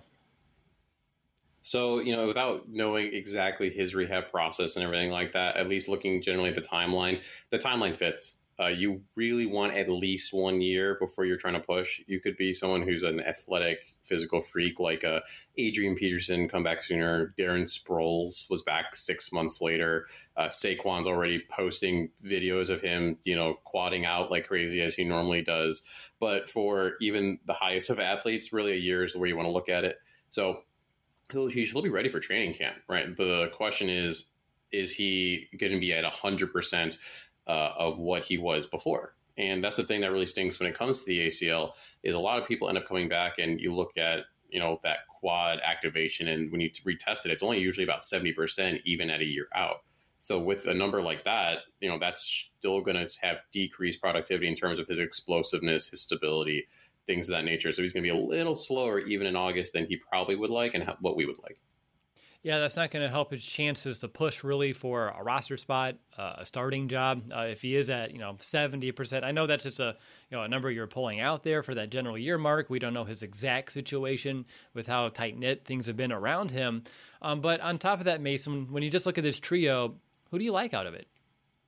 So, without knowing exactly his rehab process and everything like that, at least looking generally at the timeline fits. You really want at least 1 year before you're trying to push. You could be someone who's an athletic, physical freak like Adrian Peterson, come back sooner. Darren Sproles was back 6 months later. Saquon's already posting videos of him, quadding out like crazy as he normally does. But for even the highest of athletes, really a year is where you want to look at it. So he should be ready for training camp, right? The question is he going to be at 100% of what he was before? And that's the thing that really stinks when it comes to the ACL, is a lot of people end up coming back, and you look at, that quad activation, and when you retest it, it's only usually about 70% even at a year out. So with a number like that, that's still going to have decreased productivity in terms of his explosiveness, his stability, things of that nature. So he's going to be a little slower even in August than he probably would like and what we would like. Yeah, that's not going to help his chances to push really for a roster spot, a starting job. If he is at 70%, I know that's just a number you're pulling out there for that general year mark. We don't know his exact situation with how tight knit things have been around him. But on top of that, Mason, when you just look at this trio, Who do you like out of it?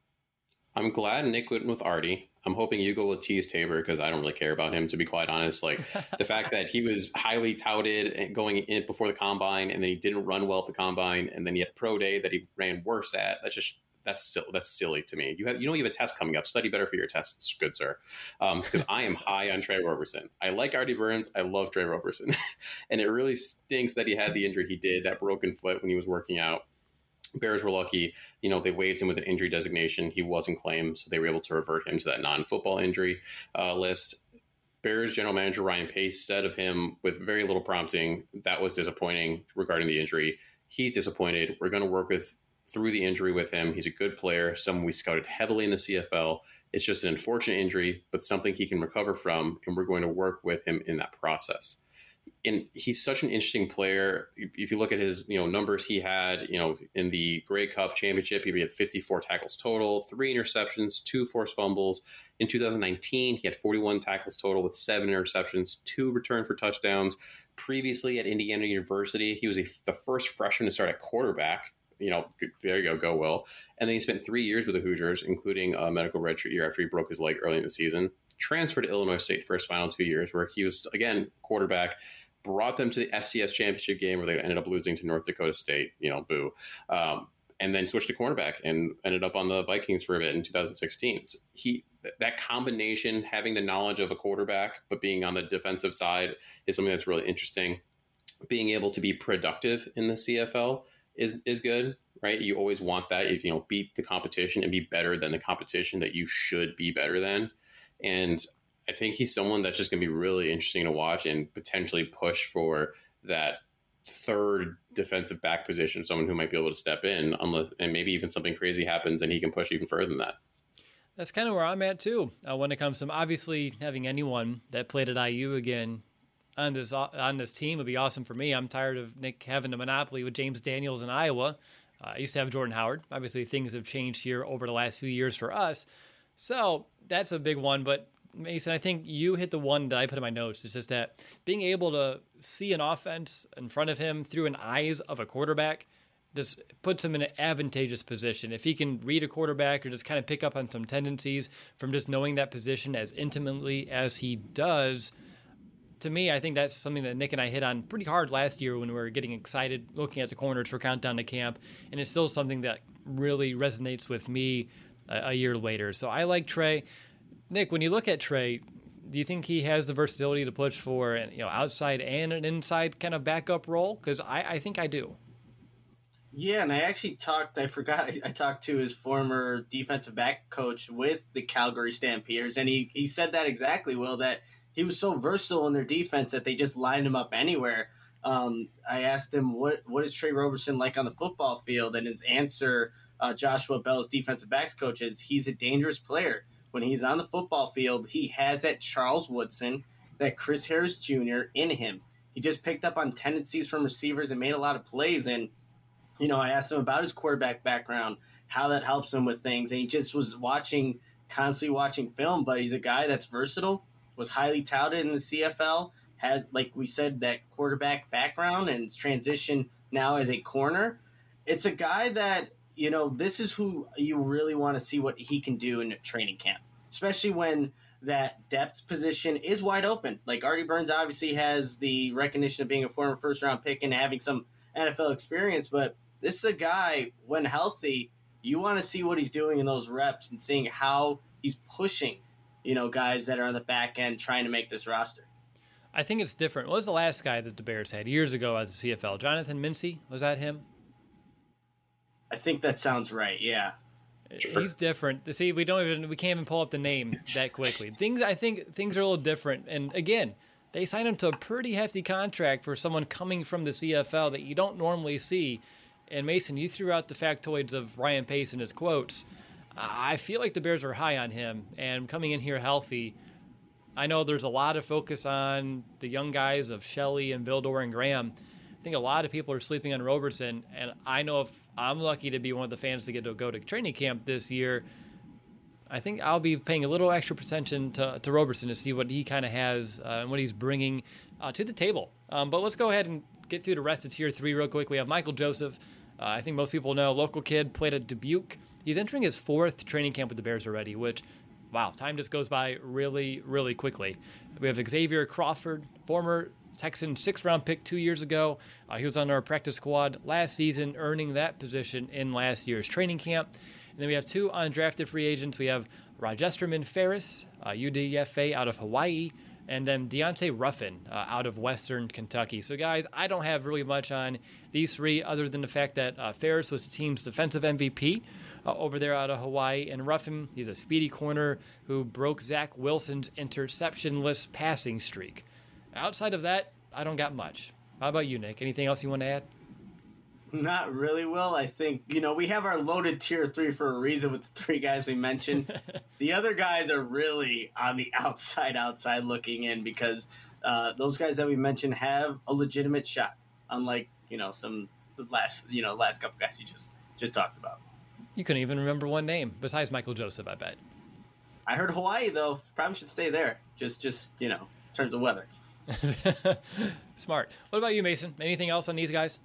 I'm glad Nick went with Artie. I'm hoping you go with Tease Tabor because I don't really care about him, to be quite honest. Like the fact that he was highly touted and going in before the combine, and then he didn't run well at the combine, and then he had pro day that he ran worse at. That's silly to me. You have a test coming up. Study better for your tests, good sir. Because I am high on Trey Roberson. I like Artie Burns. I love Trey Roberson, and it really stinks that he had the injury he did, that broken foot when he was working out. Bears were lucky, they waived him with an injury designation. He wasn't claimed, so they were able to revert him to that non-football injury list. Bears general manager Ryan Pace said of him with very little prompting, that was disappointing regarding the injury. He's disappointed. We're going to work through the injury with him. He's a good player, someone we scouted heavily in the CFL. It's just an unfortunate injury, but something he can recover from, and we're going to work with him in that process. And he's such an interesting player. If you look at his, numbers he had, in the Grey Cup Championship, he had 54 tackles total, 3 interceptions, 2 forced fumbles. In 2019, he had 41 tackles total with 7 interceptions, 2 returned for touchdowns. Previously at Indiana University, he was the first freshman to start at quarterback. There you go, Will. And then he spent 3 years with the Hoosiers, including a medical redshirt year after he broke his leg early in the season. Transferred to Illinois State for his final 2 years, where he was, again, quarterback, brought them to the FCS championship game where they ended up losing to North Dakota State, boo. And then switched to cornerback and ended up on the Vikings for a bit in 2016. So that combination, having the knowledge of a quarterback, but being on the defensive side is something that's really interesting. Being able to be productive in the CFL is good, right? You always want that. If beat the competition and be better than the competition that you should be better than. And I think he's someone that's just going to be really interesting to watch and potentially push for that third defensive back position, someone who might be able to step in and maybe even something crazy happens and he can push even further than that. That's kind of where I'm at too. When it comes to obviously having anyone that played at IU again on this team would be awesome for me. I'm tired of Nick having a monopoly with James Daniels in Iowa. I used to have Jordan Howard. Obviously things have changed here over the last few years for us. So that's a big one, but Mason, I think you hit the one that I put in my notes. It's just that being able to see an offense in front of him through an eyes of a quarterback just puts him in an advantageous position. If he can read a quarterback or just kind of pick up on some tendencies from just knowing that position as intimately as he does, to me, I think that's something that Nick and I hit on pretty hard last year when we were getting excited looking at the corners for Countdown to Camp, and it's still something that really resonates with me a year later. So I like Trey. Nick, when you look at Trey, do you think he has the versatility to push for an outside and an inside kind of backup role? Because I think I do. Yeah, and I talked to his former defensive back coach with the Calgary Stampeders, and he said that exactly, Will, that he was so versatile in their defense that they just lined him up anywhere. I asked him, what is Trey Roberson like on the football field? And his answer, Joshua Bell's defensive backs coach, is he's a dangerous player. When he's on the football field, he has that Charles Woodson, that Chris Harris Jr. in him. He just picked up on tendencies from receivers and made a lot of plays. And, I asked him about his quarterback background, how that helps him with things. And he just was constantly watching film. But he's a guy that's versatile, was highly touted in the CFL, has, like we said, that quarterback background and transition now as a corner. It's a guy that, this is who you really want to see what he can do in training camp, especially when that depth position is wide open. Like Artie Burns obviously has the recognition of being a former first-round pick and having some NFL experience, but this is a guy, when healthy, you want to see what he's doing in those reps and seeing how he's pushing, guys that are on the back end trying to make this roster. I think it's different. What was the last guy that the Bears had years ago at the CFL? Jonathan Mincy? Was that him? I think that sounds right. Yeah, sure. He's different. See, we can't even pull up the name that quickly. I think things are a little different. And again, they signed him to a pretty hefty contract for someone coming from the CFL that you don't normally see. And Mason, you threw out the factoids of Ryan Pace in his quotes. I feel like the Bears are high on him, and coming in here healthy. I know there's a lot of focus on the young guys of Shelley and Vildor and Graham. I think a lot of people are sleeping on Roberson, and I know if I'm lucky to be one of the fans to get to go to training camp this year, I think I'll be paying a little extra attention to Roberson to see what he kind of has and what he's bringing to the table. But let's go ahead and get through the rest of Tier 3 real quick. We have Michael Joseph, I think most people know, local kid, played at Dubuque. He's entering his 4th training camp with the Bears already, which, wow, time just goes by really, really quickly. We have Xavier Crawford, former Texan 6th-round pick 2 years ago. He was on our practice squad last season, earning that position in last year's training camp. And then we have 2 undrafted free agents. We have Rogesterman Ferris, UDFA out of Hawaii, and then Deontay Ruffin out of Western Kentucky. So, guys, I don't have really much on these 3 other than the fact that Ferris was the team's defensive MVP over there out of Hawaii. And Ruffin, he's a speedy corner who broke Zach Wilson's interceptionless passing streak. Outside of that, I don't got much. How about you, Nick? Anything else you want to add? Not really, Will. I think, we have our loaded tier 3 for a reason with the 3 guys we mentioned. The other guys are really on the outside looking in because those guys that we mentioned have a legitimate shot, unlike, some last couple guys you just talked about. You couldn't even remember one name besides Michael Joseph, I bet. I heard Hawaii, though. Probably should stay there. Just in terms of weather. Smart. What about you, Mason? Anything else on these guys?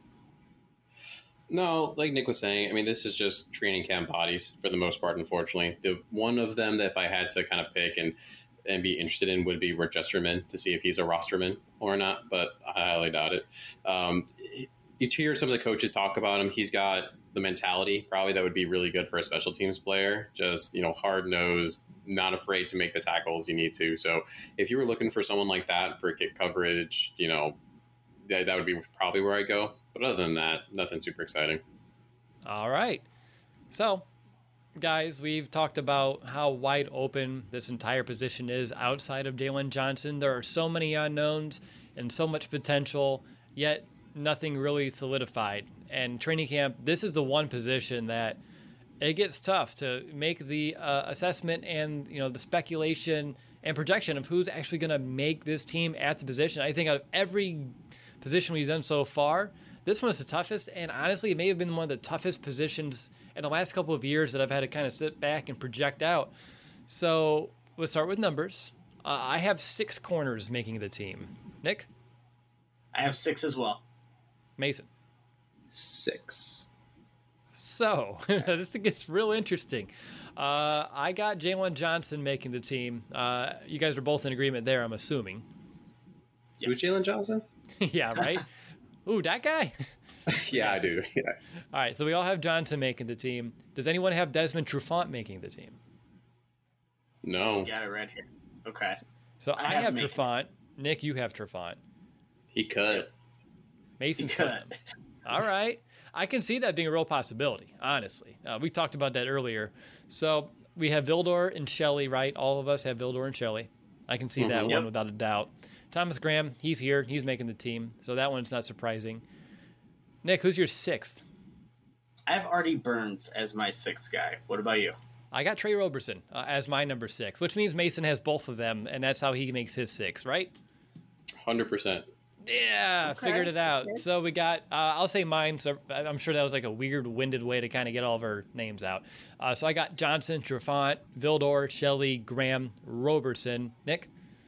No, like Nick was saying, I mean, this is just training camp bodies for the most part, unfortunately. The one of them that if I had to kind of pick and be interested in would be Rogesterman to see if he's a rosterman or not, but I highly doubt it. You hear some of the coaches talk about him. He's got the mentality probably that would be really good for a special teams player. Just, hard-nosed, not afraid to make the tackles you need to. So if you were looking for someone like that for kick coverage, that would be probably where I go. But other than that, nothing super exciting. All right. So, guys, we've talked about how wide open this entire position is outside of Jalen Johnson. There are so many unknowns and so much potential, yet nothing really solidified. And training camp, this is the one position that it gets tough to make the assessment and the speculation and projection of who's actually going to make this team at the position. I think out of every position we've done so far, this one is the toughest, and honestly, it may have been one of the toughest positions in the last couple of years that I've had to kind of sit back and project out. So we'll start with numbers. I have 6 corners making the team. Nick? I have 6 as well. Mason? 6. So this gets real interesting. I got Jalen Johnson making the team. You guys are both in agreement there, I'm assuming. Yeah. Who's Jalen Johnson? Yeah, right? Ooh, that guy? Yeah, I do. Yeah. All right, so we all have Johnson making the team. Does anyone have Desmond Trufant making the team? No. You got it right here. Okay. So I have Trufant. Nick, you have Trufant. He could. Mason's could. All right. I can see that being a real possibility, honestly. We talked about that earlier. So we have Vildor and Shelley, right? All of us have Vildor and Shelley. I can see that one without a doubt. Thomas Graham, he's here. He's making the team. So that one's not surprising. Nick, who's your 6th? I have Artie Burns as my 6th guy. What about you? I got Trey Roberson as my number 6, which means Mason has both of them, and that's how he makes his 6, right? 100%. Yeah, okay. Figured it out. Okay. So we got, I'll say mine. So I'm sure that was like a weird, winded way to kind of get all of our names out. So I got Johnson, Trufant, Vildor, Shelley, Graham, Roberson. Nick?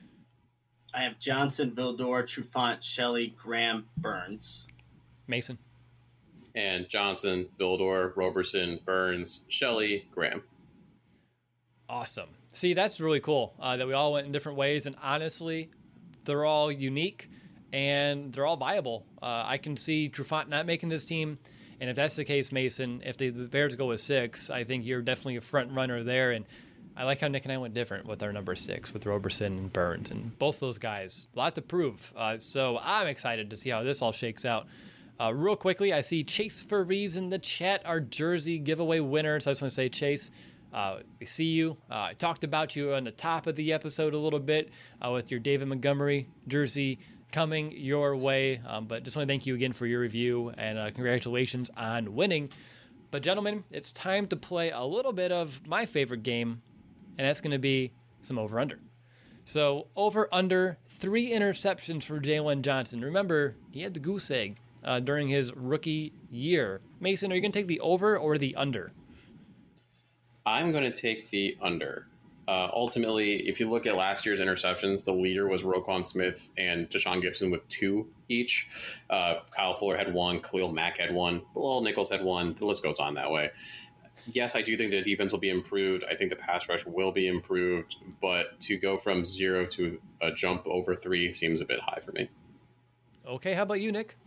I have Johnson, Vildor, Trufant, Shelley, Graham, Burns. Mason? And Johnson, Vildor, Roberson, Burns, Shelley, Graham. Awesome. See, that's really cool that we all went in different ways. And honestly, they're all unique and they're all viable. I can see Trufant not making this team. And if that's the case, Mason, if the Bears go with 6, I think you're definitely a front runner there. And I like how Nick and I went different with our number 6 with Roberson and Burns. And both those guys, a lot to prove. So I'm excited to see how this all shakes out. Real quickly, I see Chase Furries in the chat, our jersey giveaway winner. So I just want to say, Chase, we see you. I talked about you on the top of the episode a little bit with your David Montgomery jersey coming your way. But just want to thank you again for your review and congratulations on winning. But gentlemen, it's time to play a little bit of my favorite game, and that's going to be some over-under. So over-under 3 interceptions for Jalen Johnson. Remember, he had the goose egg during his rookie year. Mason, are you going to take the over or the under? I'm going to take the under. Ultimately, if you look at last year's interceptions, the leader was Roquan Smith and Deshaun Gibson with 2 each. Kyle Fuller had 1, Khalil Mack had 1, Bilal Nichols had 1. The list goes on that way. Yes, I do think the defense will be improved. I think the pass rush will be improved, but to go from 0 to a jump over 3 seems a bit high for me. Okay, how about you, Nick?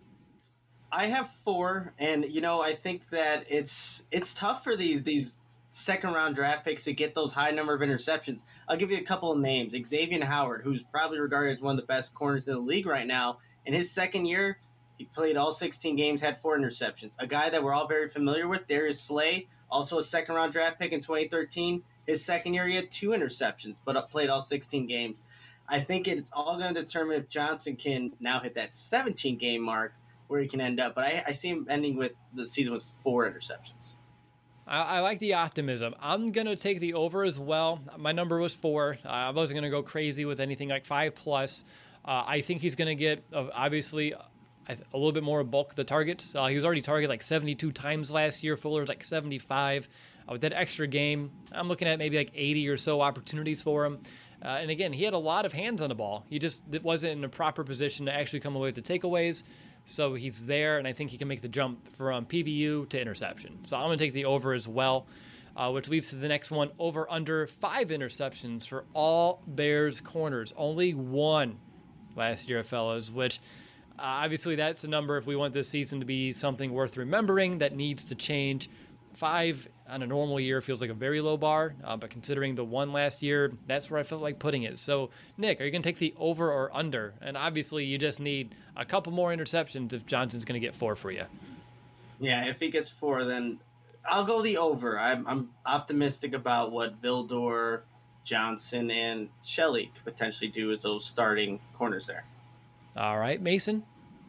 I have 4, and I think that it's tough for these second round draft picks to get those high number of interceptions. I'll give you a couple of names. Xavier Howard, who's probably regarded as one of the best corners in the league right now. In his second year, he played all 16 games, had 4 interceptions. A guy that we're all very familiar with, Darius Slay, also a second round draft pick in 2013. His second year, he had 2 interceptions, but played all 16 games. I think it's all going to determine if Johnson can now hit that 17 game mark where he can end up. But I see him ending with the season with 4 interceptions. I like the optimism. I'm going to take the over as well. My number was 4. I wasn't going to go crazy with anything like 5+. I think he's going to get, obviously, a little bit more bulk of the targets. He was already targeted like 72 times last year. Fuller was like 75. With that extra game, I'm looking at maybe like 80 or so opportunities for him. And again, he had a lot of hands on the ball. He just wasn't in a proper position to actually come away with the takeaways. So he's there, and I think he can make the jump from PBU to interception. So I'm going to take the over as well, which leads to the next one, over under 5 interceptions for all Bears corners. Only 1 last year, fellas, which obviously that's a number if we want this season to be something worth remembering that needs to change. 5 on a normal year feels like a very low bar, but considering the 1 last year, that's where I felt like putting it. So, Nick, are you going to take the over or under? And obviously, you just need a couple more interceptions if Johnson's going to get 4 for you. Yeah, if he gets 4, then I'll go the over. I'm optimistic about what Vildor, Johnson, and Shelley could potentially do as those starting corners there. All right, Mason?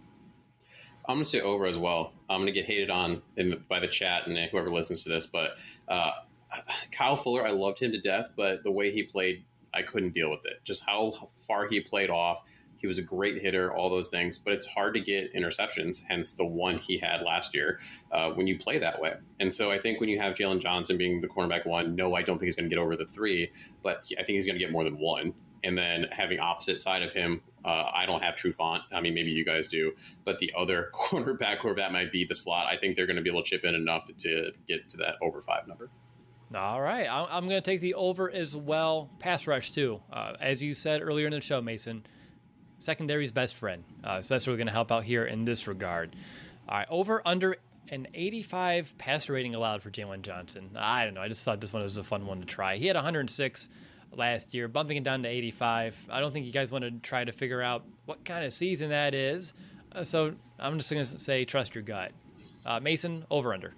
I'm going to say over as well. I'm going to get hated on by the chat and whoever listens to this, but Kyle Fuller, I loved him to death, but the way he played, I couldn't deal with it. Just how far he played off. He was a great hitter, all those things, but it's hard to get interceptions, hence the 1 he had last year when you play that way. And so I think when you have Jalen Johnson being the cornerback 1, no, I don't think he's going to get over the 3, but I think he's going to get more than 1. And then having opposite side of him, I don't have Trufant. I mean, maybe you guys do. But the other cornerback, whoever that might be, the slot, I think they're going to be able to chip in enough to get to that over 5 number. All right. I'm going to take the over as well. Pass rush, too. As you said earlier in the show, Mason, secondary's best friend. So that's really going to help out here in this regard. All right. Over, under an 85 passer rating allowed for Jalen Johnson. I don't know. I just thought this one was a fun one to try. He had 106 last year, bumping it down to 85. I don't think you guys want to try to figure out what kind of season that is. So I'm just going to say trust your gut. Mason, over, under.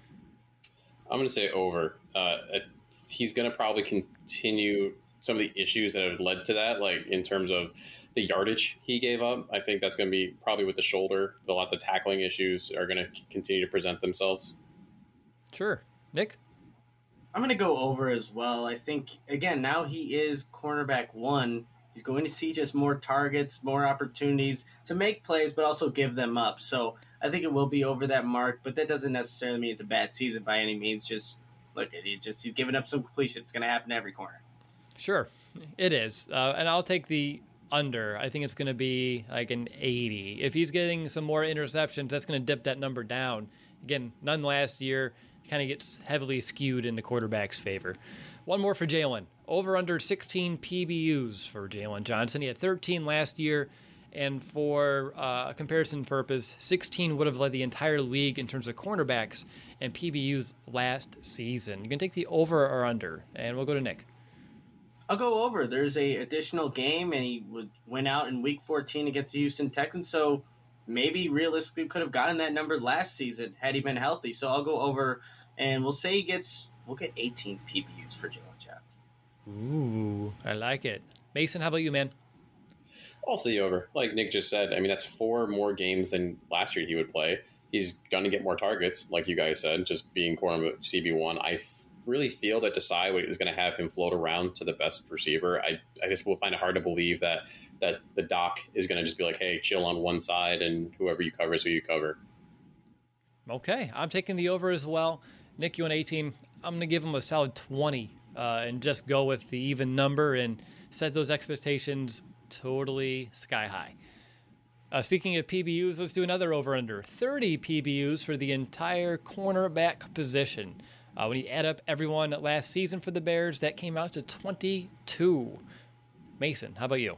I'm going to say over. He's going to probably continue some of the issues that have led to that, like in terms of the yardage he gave up. I think that's going to be probably with the shoulder. A lot of the tackling issues are going to continue to present themselves. Sure. Nick? I'm going to go over as well. I think, again, now he is cornerback 1. He's going to see just more targets, more opportunities to make plays, but also give them up. So I think it will be over that mark, but that doesn't necessarily mean it's a bad season by any means. Just look at it. He's giving up some completion. It's going to happen every corner. Sure, it is. And I'll take the under. I think it's going to be like an 80. If he's getting some more interceptions, that's going to dip that number down. Again, none last year. Kind of gets heavily skewed in the quarterback's favor. One more for Jalen. Over under 16 PBUs for Jalen Johnson. He had 13 last year, and for a comparison purpose, 16 would have led the entire league in terms of cornerbacks and PBUs last season. You can take the over or under, and we'll go to Nick. I'll go over. There's a additional game, and he went out in Week 14 against the Houston Texans, so maybe realistically could have gotten that number last season had he been healthy. So I'll go over, and we'll say we'll get 18 PBUs for Jalen Johnson. Ooh, I like it. Mason, how about you, man? Also the over. Like Nick just said, I mean, that's 4 more games than last year he would play. He's going to get more targets, like you guys said, just being corner CB1. I really feel that Desai is going to have him float around to the best receiver. I just will find it hard to believe that the doc is going to just be like, hey, chill on one side, and whoever you cover is who you cover. Okay, I'm taking the over as well. Nick, you went 18. I'm going to give him a solid 20 and just go with the even number and set those expectations totally sky high. Speaking of PBUs, let's do another over-under. 30 PBUs for the entire cornerback position. When you add up everyone last season for the Bears, that came out to 22. Mason, how about you?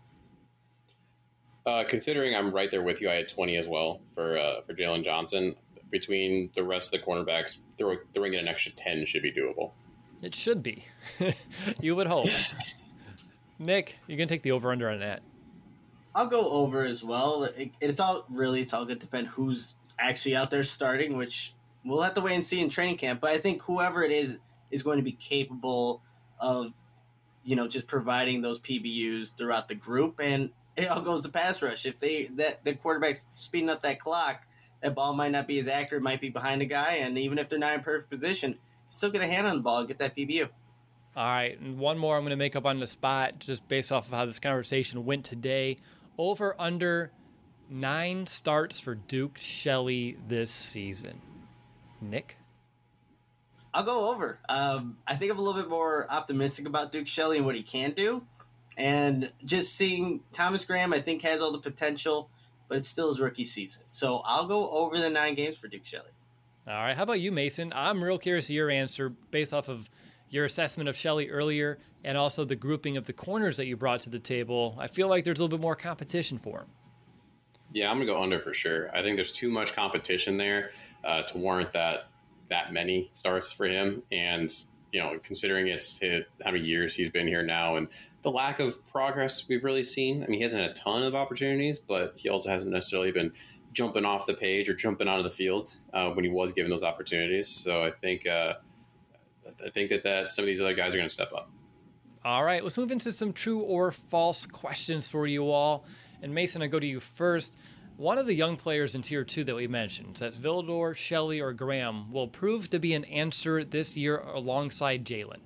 Considering I'm right there with you, I had 20 as well for Jalen Johnson. Between the rest of the cornerbacks, throwing in an extra 10 should be doable. It should be. You would hope. Nick, you can take the over-under on that. I'll go over as well. It's all going to depend who's actually out there starting, which we'll have to wait and see in training camp. But I think whoever it is going to be capable of, just providing those PBUs throughout the group. And it all goes to pass rush. If the quarterback's speeding up that clock, that ball might not be as accurate, might be behind a guy, and even if they're not in perfect position, still get a hand on the ball and get that PBU. All right, and one more I'm going to make up on the spot just based off of how this conversation went today. Over under 9 starts for Duke Shelley this season. Nick? I'll go over. I think I'm a little bit more optimistic about Duke Shelley and what he can do. And just seeing Thomas Graham, I think, has all the potential, but it's still his rookie season. So I'll go over the 9 games for Duke Shelley. All right, how about you, Mason? I'm real curious of your answer based off of your assessment of Shelley earlier and also the grouping of the corners that you brought to the table. I feel like there's a little bit more competition for him. Yeah, I'm going to go under for sure. I think there's too much competition there to warrant that many starts for him. And, considering it's how many years he's been here now and the lack of progress we've really seen. I mean, he hasn't had a ton of opportunities, but he also hasn't necessarily been jumping off the page or jumping onto the field when he was given those opportunities. So I think that some of these other guys are going to step up. All right, let's move into some true or false questions for you all. And Mason, I go to you first. One of the young players in Tier 2 that we mentioned, so that's Vildor, Shelley, or Graham, will prove to be an answer this year alongside Jalen.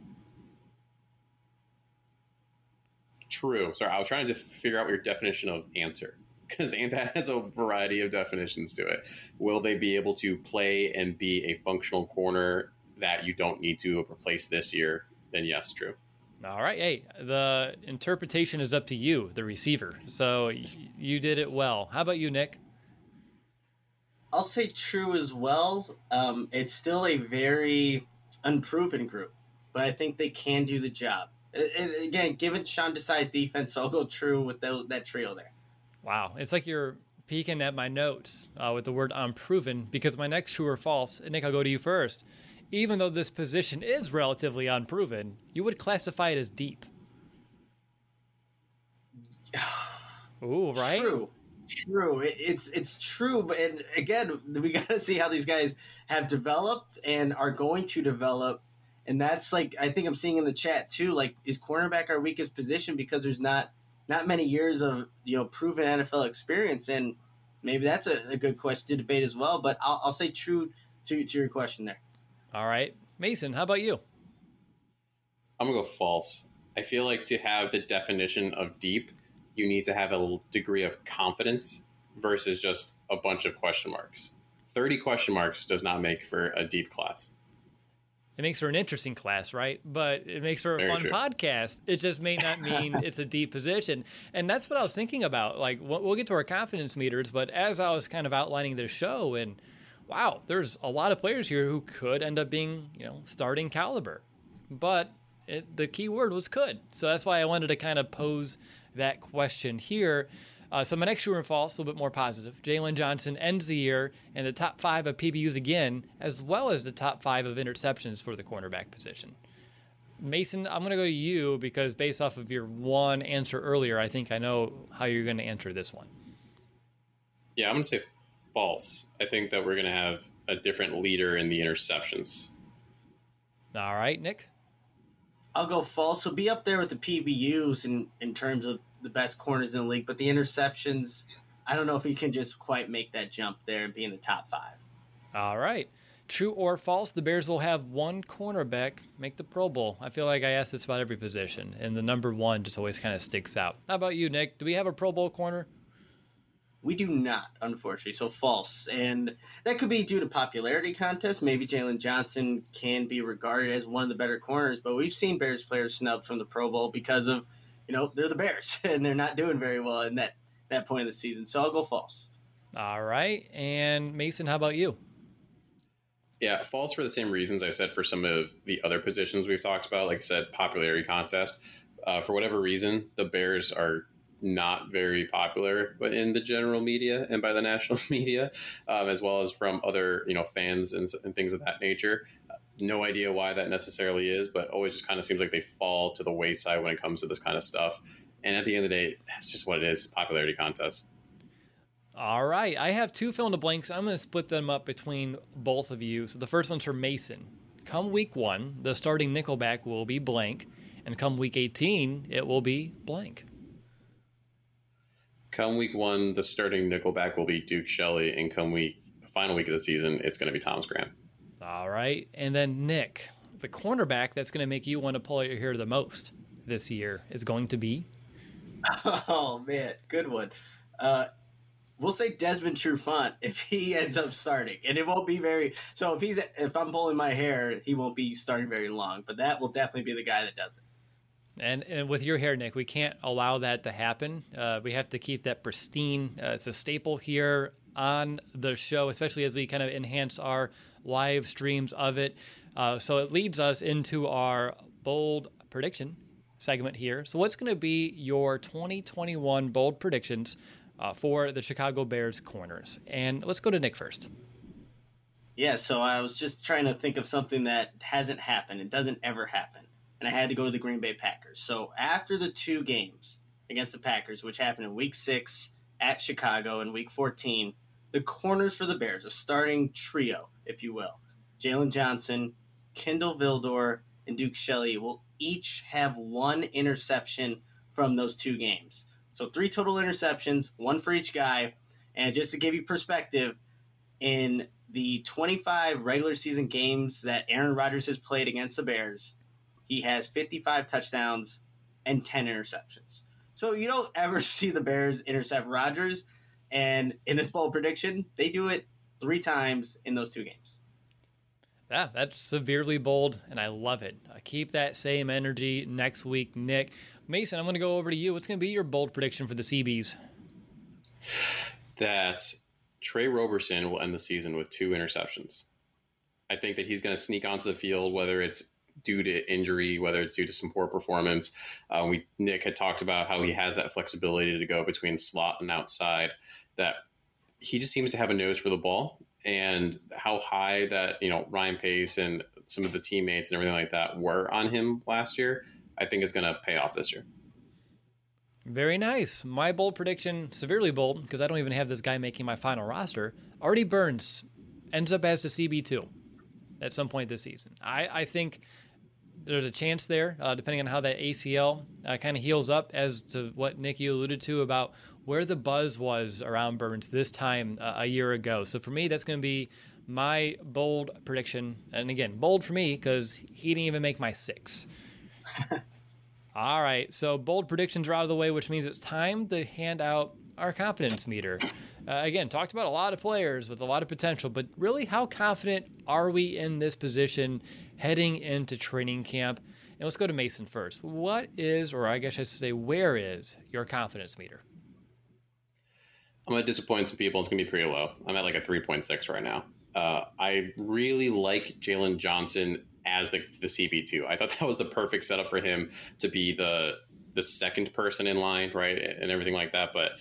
True. Sorry, I was trying to figure out what your definition of answer, because that has a variety of definitions to it. Will they be able to play and be a functional corner that you don't need to replace this year? Then yes, true. All right. Hey, the interpretation is up to you, the receiver. So you did it well. How about you, Nick? I'll say true as well. It's still a very unproven group, but I think they can do the job. And again, given Sean Desai's defense, I'll go true with that trio there. Wow. It's like you're peeking at my notes with the word unproven, because my next true or false, and Nick, I'll go to you first. Even though this position is relatively unproven, you would classify it as deep. Ooh, right? True. It's true, but and again, we got to see how these guys have developed and are going to develop. And that's like, I think I'm seeing in the chat too, like, is cornerback our weakest position because there's not many years of, proven NFL experience? And maybe that's a good question to debate as well. But I'll say true to your question there. All right. Mason, how about you? I'm going to go false. I feel like to have the definition of deep, you need to have a degree of confidence versus just a bunch of question marks. 30 question marks does not make for a deep class. It makes for an interesting class, right? But it makes for a Very fun true. podcast. It just may not mean it's a deep position. And that's what I was thinking about. Like, we'll get to our confidence meters, but as I was kind of outlining this show, and wow, there's a lot of players here who could end up being, starting caliber. But the key word was could. So that's why I wanted to kind of pose that question here. So my next true and false, a little bit more positive. Jalen Johnson ends the year in the top 5 of PBUs again, as well as the top 5 of interceptions for the cornerback position. Mason, I'm going to go to you because based off of your one answer earlier, I think I know how you're going to answer this one. Yeah, I'm going to say false. I think that we're going to have a different leader in the interceptions. All right, Nick? I'll go false. So be up there with the PBUs in terms of the best corners in the league, but the interceptions, I don't know if he can just quite make that jump there and be in the top 5. All right. True or false, the Bears will have one cornerback make the Pro Bowl. I feel like I ask this about every position, and the number 1 just always kind of sticks out. How about you, Nick? Do we have a Pro Bowl corner? We do not, unfortunately. So false. And that could be due to popularity contest. Maybe Jalen Johnson can be regarded as one of the better corners, but we've seen Bears players snubbed from the Pro Bowl because of, they're the Bears and they're not doing very well in that point of the season. So I'll go false. All right. And Mason, how about you? Yeah, false for the same reasons I said for some of the other positions we've talked about. Like I said, popularity contest. For whatever reason, the Bears are not very popular in the general media and by the national media, as well as from other fans and things of that nature. No idea why that necessarily is, but always just kind of seems like they fall to the wayside when it comes to this kind of stuff. And at the end of the day, that's just what it is, popularity contest. All right. I have two fill in the blanks. I'm going to split them up between both of you. So the first one's for Mason. Come week 1, the starting nickelback will be blank. And come week 18, it will be blank. Come week 1, the starting nickelback will be Duke Shelley. And come final week of the season, it's going to be Thomas Graham. All right. And then Nick, the cornerback that's going to make you want to pull out your hair the most this year is going to be? Oh, man. Good one. We'll say Desmond Trufant if he ends up starting, and it won't be very. So if I'm pulling my hair, he won't be starting very long. But that will definitely be the guy that does it. And with your hair, Nick, we can't allow that to happen. We have to keep that pristine. It's a staple here on the show, especially as we kind of enhance our live streams of it. So it leads us into our bold prediction segment here. So what's going to be your 2021 bold predictions for the Chicago Bears corners? And let's go to Nick first. Yeah, so I was just trying to think of something that hasn't happened. It doesn't ever happen. And I had to go to the Green Bay Packers. So after the 2 games against the Packers, which happened in Week 6 at Chicago and Week 14, the corners for the Bears, a starting trio, if you will, Jalen Johnson, Kindle Vildor, and Duke Shelley will each have 1 interception from those 2 games. So 3 total interceptions, 1 for each guy. And just to give you perspective, in the 25 regular season games that Aaron Rodgers has played against the Bears, he has 55 touchdowns and 10 interceptions. So you don't ever see the Bears intercept Rodgers. And in this bold prediction, they do it 3 times in those 2 games. Yeah, that's severely bold, and I love it. Keep that same energy next week, Nick. Mason, I'm going to go over to you. What's going to be your bold prediction for the CBs? That Trey Roberson will end the season with 2 interceptions. I think that he's going to sneak onto the field, whether it's due to injury, whether it's due to some poor performance. Nick had talked about how he has that flexibility to go between slot and outside, that he just seems to have a nose for the ball, and how high that, Ryan Pace and some of the teammates and everything like that were on him last year, I think is going to pay off this year. Very nice. My bold prediction, severely bold, because I don't even have this guy making my final roster. Artie Burns ends up as the CB2 at some point this season. I think there's a chance there, depending on how that ACL kind of heals up, as to what Nick, you alluded to about where the buzz was around Burns this time a year ago. So for me, that's going to be my bold prediction. And again, bold for me because he didn't even make my 6. All right, so bold predictions are out of the way, which means it's time to hand out our confidence meter. Again, talked about a lot of players with a lot of potential, but really, how confident are we in this position heading into training camp? And let's go to Mason first. What is, or I guess I should say, where is your confidence meter? I'm going to disappoint some people. It's going to be pretty low. I'm at like a 3.6 right now. I really like Jalen Johnson as the CB2. I thought that was the perfect setup for him to be the second person in line, right, and everything like that. But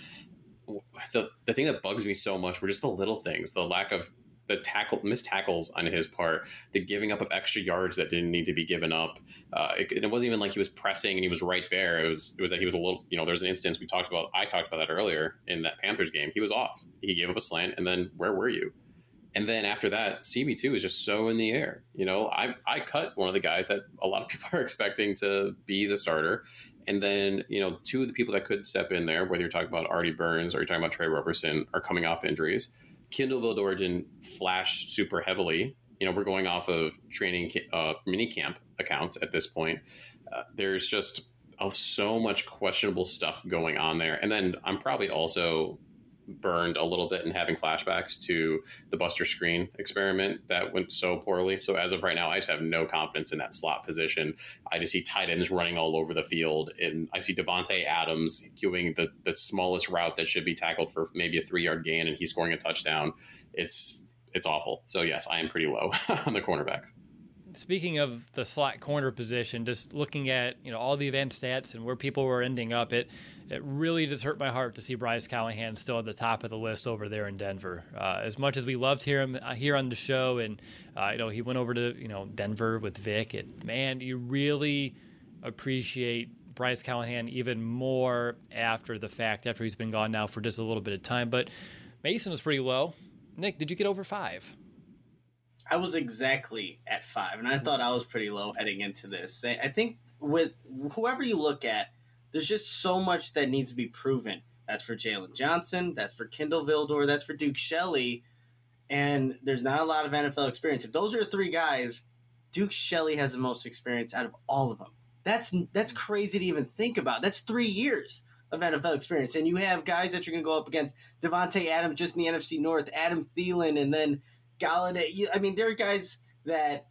the thing that bugs me so much were just the little things, the lack of the missed tackles on his part, the giving up of extra yards that didn't need to be given up. It wasn't even like he was pressing and he was right there. It was that he was a little, there's an instance I talked about that earlier in that Panthers game. He was off. He gave up a slant, and then where were you? And then after that, CB2 is just so in the air. I cut one of the guys that a lot of people are expecting to be the starter. And then, 2 of the people that could step in there, whether you're talking about Artie Burns or you're talking about Trey Roberson, are coming off injuries. Kindle Vildor didn't flash super heavily. We're going off of training minicamp accounts at this point. There's just so much questionable stuff going on there. And then I'm probably also burned a little bit and having flashbacks to the Buster Screen experiment that went so poorly. So as of right now, I just have no confidence in that slot position. I just see tight ends running all over the field, and I see Devontae Adams doing the smallest route that should be tackled for maybe a 3-yard gain, and he's scoring a touchdown. It's awful. So yes, I am pretty low on the cornerbacks. Speaking of the slot corner position, just looking at all the advanced stats and where people were ending up, it really just hurt my heart to see Bryce Callahan still at the top of the list over there in Denver. As much as we loved him here on the show, and he went over to Denver with Vic. Man, you really appreciate Bryce Callahan even more after the fact, after he's been gone now for just a little bit of time. But Mason was pretty low. Nick, did you get over 5? I was exactly at 5, and I thought I was pretty low heading into this. I think with whoever you look at, there's just so much that needs to be proven. That's for Jalen Johnson, that's for Kindle Vildor, that's for Duke Shelley, and there's not a lot of NFL experience. If those are 3 guys, Duke Shelley has the most experience out of all of them. That's crazy to even think about. That's 3 years of NFL experience, and you have guys that you're going to go up against. Devontae Adams just in the NFC North, Adam Thielen, and then Galladay. I mean, there are guys that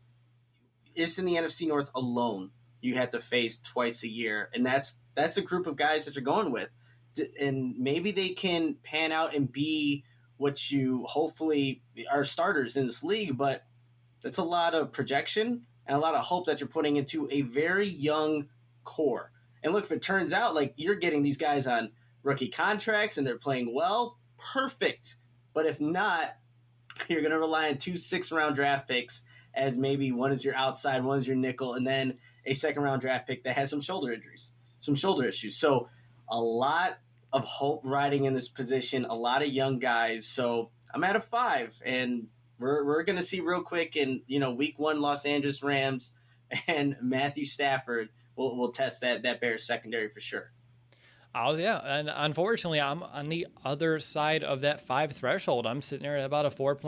just in the NFC North alone you have to face twice a year, and that's a group of guys that you're going with, and maybe they can pan out and be what you hopefully are starters in this league, but that's a lot of projection and a lot of hope that you're putting into a very young core. And look, if it turns out like you're getting these guys on rookie contracts and they're playing well, perfect. But if not, you're going to rely on 2 6th-round draft picks, as maybe one is your outside, one is your nickel, and then a 2nd-round draft pick that has some shoulder injuries, some shoulder issues. So a lot of hope riding in this position, a lot of young guys. So I'm at a 5, and we're going to see real quick in week 1 Los Angeles Rams and Matthew Stafford will test that Bears secondary for sure. Oh, yeah. And unfortunately, I'm on the other side of that 5 threshold. I'm sitting there at about a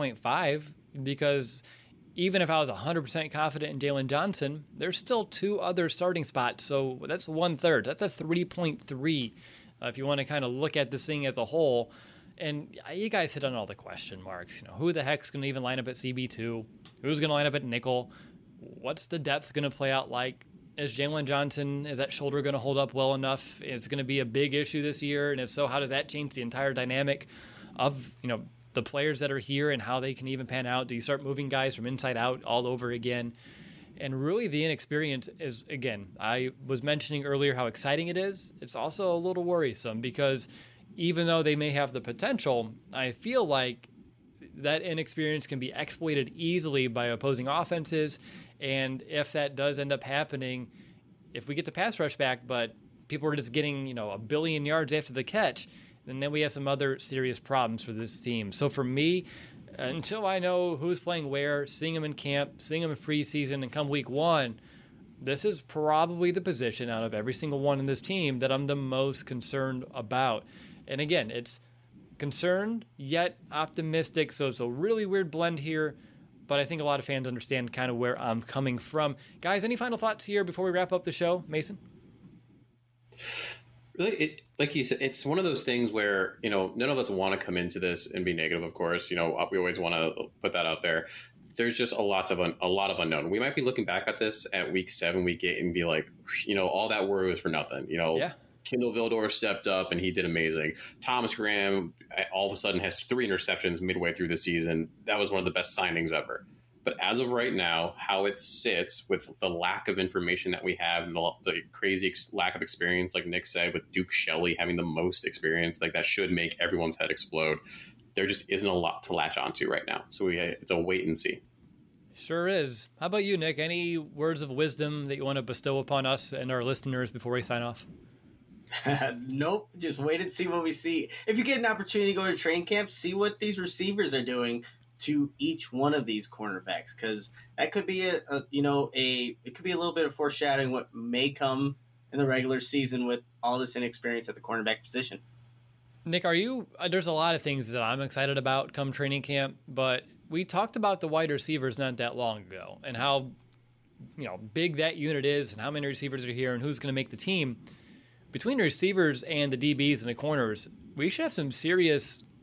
4.5 because even if I was 100% confident in Jalen Johnson, there's still 2 other starting spots. So that's 1/3. That's a 3.3 if you want to kind of look at this thing as a whole. And you guys hit on all the question marks. Who the heck's going to even line up at CB2? Who's going to line up at nickel? What's the depth going to play out like? Is Jalen Johnson, is that shoulder going to hold up well enough? It's going to be a big issue this year. And if so, how does that change the entire dynamic of, the players that are here and how they can even pan out? Do you start moving guys from inside out all over again? And really the inexperience is, again, I was mentioning earlier how exciting it is. It's also a little worrisome because even though they may have the potential, I feel like that inexperience can be exploited easily by opposing offenses. And if that does end up happening, if we get the pass rush back, but people are just getting, a billion yards after the catch, then we have some other serious problems for this team. So for me, until I know who's playing where, seeing them in camp, seeing them in preseason, and come week 1, this is probably the position out of every single one in this team that I'm the most concerned about. And again, it's concerned yet optimistic. So it's a really weird blend here. But I think a lot of fans understand kind of where I'm coming from. Guys, any final thoughts here before we wrap up the show? Mason? Really, like you said, it's one of those things where, none of us want to come into this and be negative, of course. We always want to put that out there. There's just a lot of unknown. We might be looking back at this at week 7, week 8 and be like, all that worry was for nothing. Yeah. Kindle Vildor stepped up and he did amazing. Thomas Graham all of a sudden has 3 interceptions midway through the season. That was one of the best signings ever. But as of right now, how it sits with the lack of information that we have and the crazy lack of experience, like Nick said, with Duke Shelley having the most experience, like that should make everyone's head explode. There just isn't a lot to latch onto right now. So it's a wait and see. Sure is. How about you, Nick? Any words of wisdom that you want to bestow upon us and our listeners before we sign off? Nope. Just wait and see what we see. If you get an opportunity to go to training camp, see what these receivers are doing to each one of these cornerbacks, because that could be it could be a little bit of foreshadowing what may come in the regular season with all this inexperience at the cornerback position. Nick, there's a lot of things that I'm excited about come training camp, but we talked about the wide receivers not that long ago and how, big that unit is and how many receivers are here and who's going to make the team. Between the receivers and the DBs and the corners, we should have some serious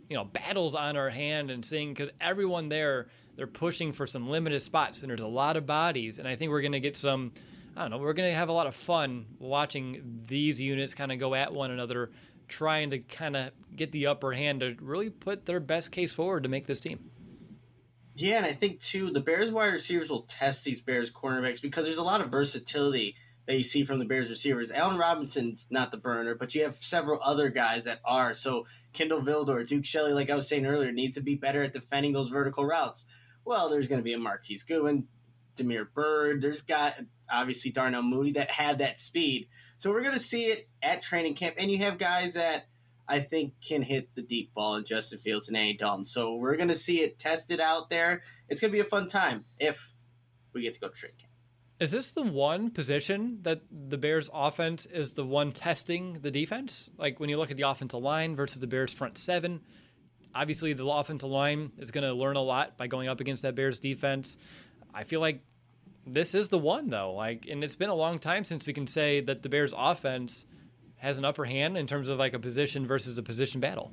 battles on our hand and seeing, because everyone there, they're pushing for some limited spots and there's a lot of bodies. And I think we're going to get some, we're going to have a lot of fun watching these units kind of go at one another, trying to kind of get the upper hand to really put their best case forward to make this team. Yeah, and I think, too, the Bears wide receivers will test these Bears cornerbacks because there's a lot of versatility that you see from the Bears receivers. Allen Robinson's not the burner, but you have several other guys that are. So Kindle Vildor, Duke Shelley, like I was saying earlier, needs to be better at defending those vertical routes. Well, there's going to be a Marquise Goodwin, Damiere Byrd. There's got, obviously, Darnell Mooney that had that speed. So we're going to see it at training camp. And you have guys that I think can hit the deep ball in Justin Fields and Andy Dalton. So we're going to see it tested out there. It's going to be a fun time if we get to go to training camp. Is this the one position that the Bears offense is the one testing the defense? Like when you look at the offensive line versus the Bears front seven, obviously the offensive line is going to learn a lot by going up against that Bears defense. I feel like this is the one though. And it's been a long time since we can say that the Bears offense has an upper hand in terms of like a position versus a position battle.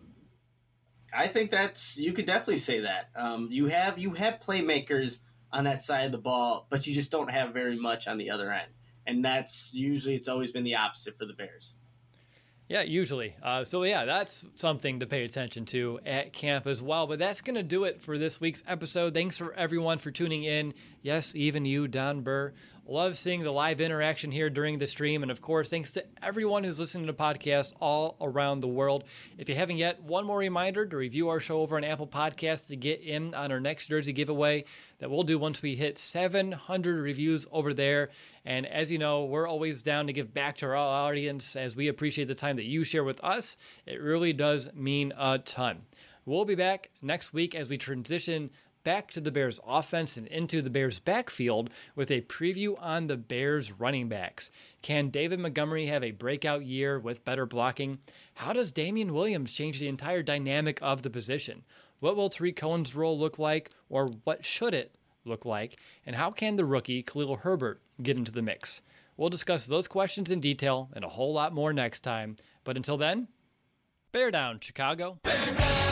I think you could definitely say that. You have playmakers on that side of the ball, but you just don't have very much on the other end. And it's always been the opposite for the Bears. Yeah, usually. That's something to pay attention to at camp as well. But that's going to do it for this week's episode. Thanks for everyone for tuning in. Yes, even you, Don Burr. Love seeing the live interaction here during the stream. And of course, thanks to everyone who's listening to podcasts all around the world. If you haven't yet, one more reminder to review our show over on Apple Podcasts to get in on our next jersey giveaway that we'll do once we hit 700 reviews over there. And as you know, we're always down to give back to our audience as we appreciate the time that you share with us. It really does mean a ton. We'll be back next week as we transition back to the Bears offense and into the Bears backfield with a preview on the Bears running backs. Can David Montgomery have a breakout year with better blocking? How does Damian Williams change the entire dynamic of the position? What will Tariq Cohen's role look like, or what should it look like? And how can the rookie Khalil Herbert get into the mix? We'll discuss those questions in detail and a whole lot more next time. But until then, bear down, Chicago. Bear down!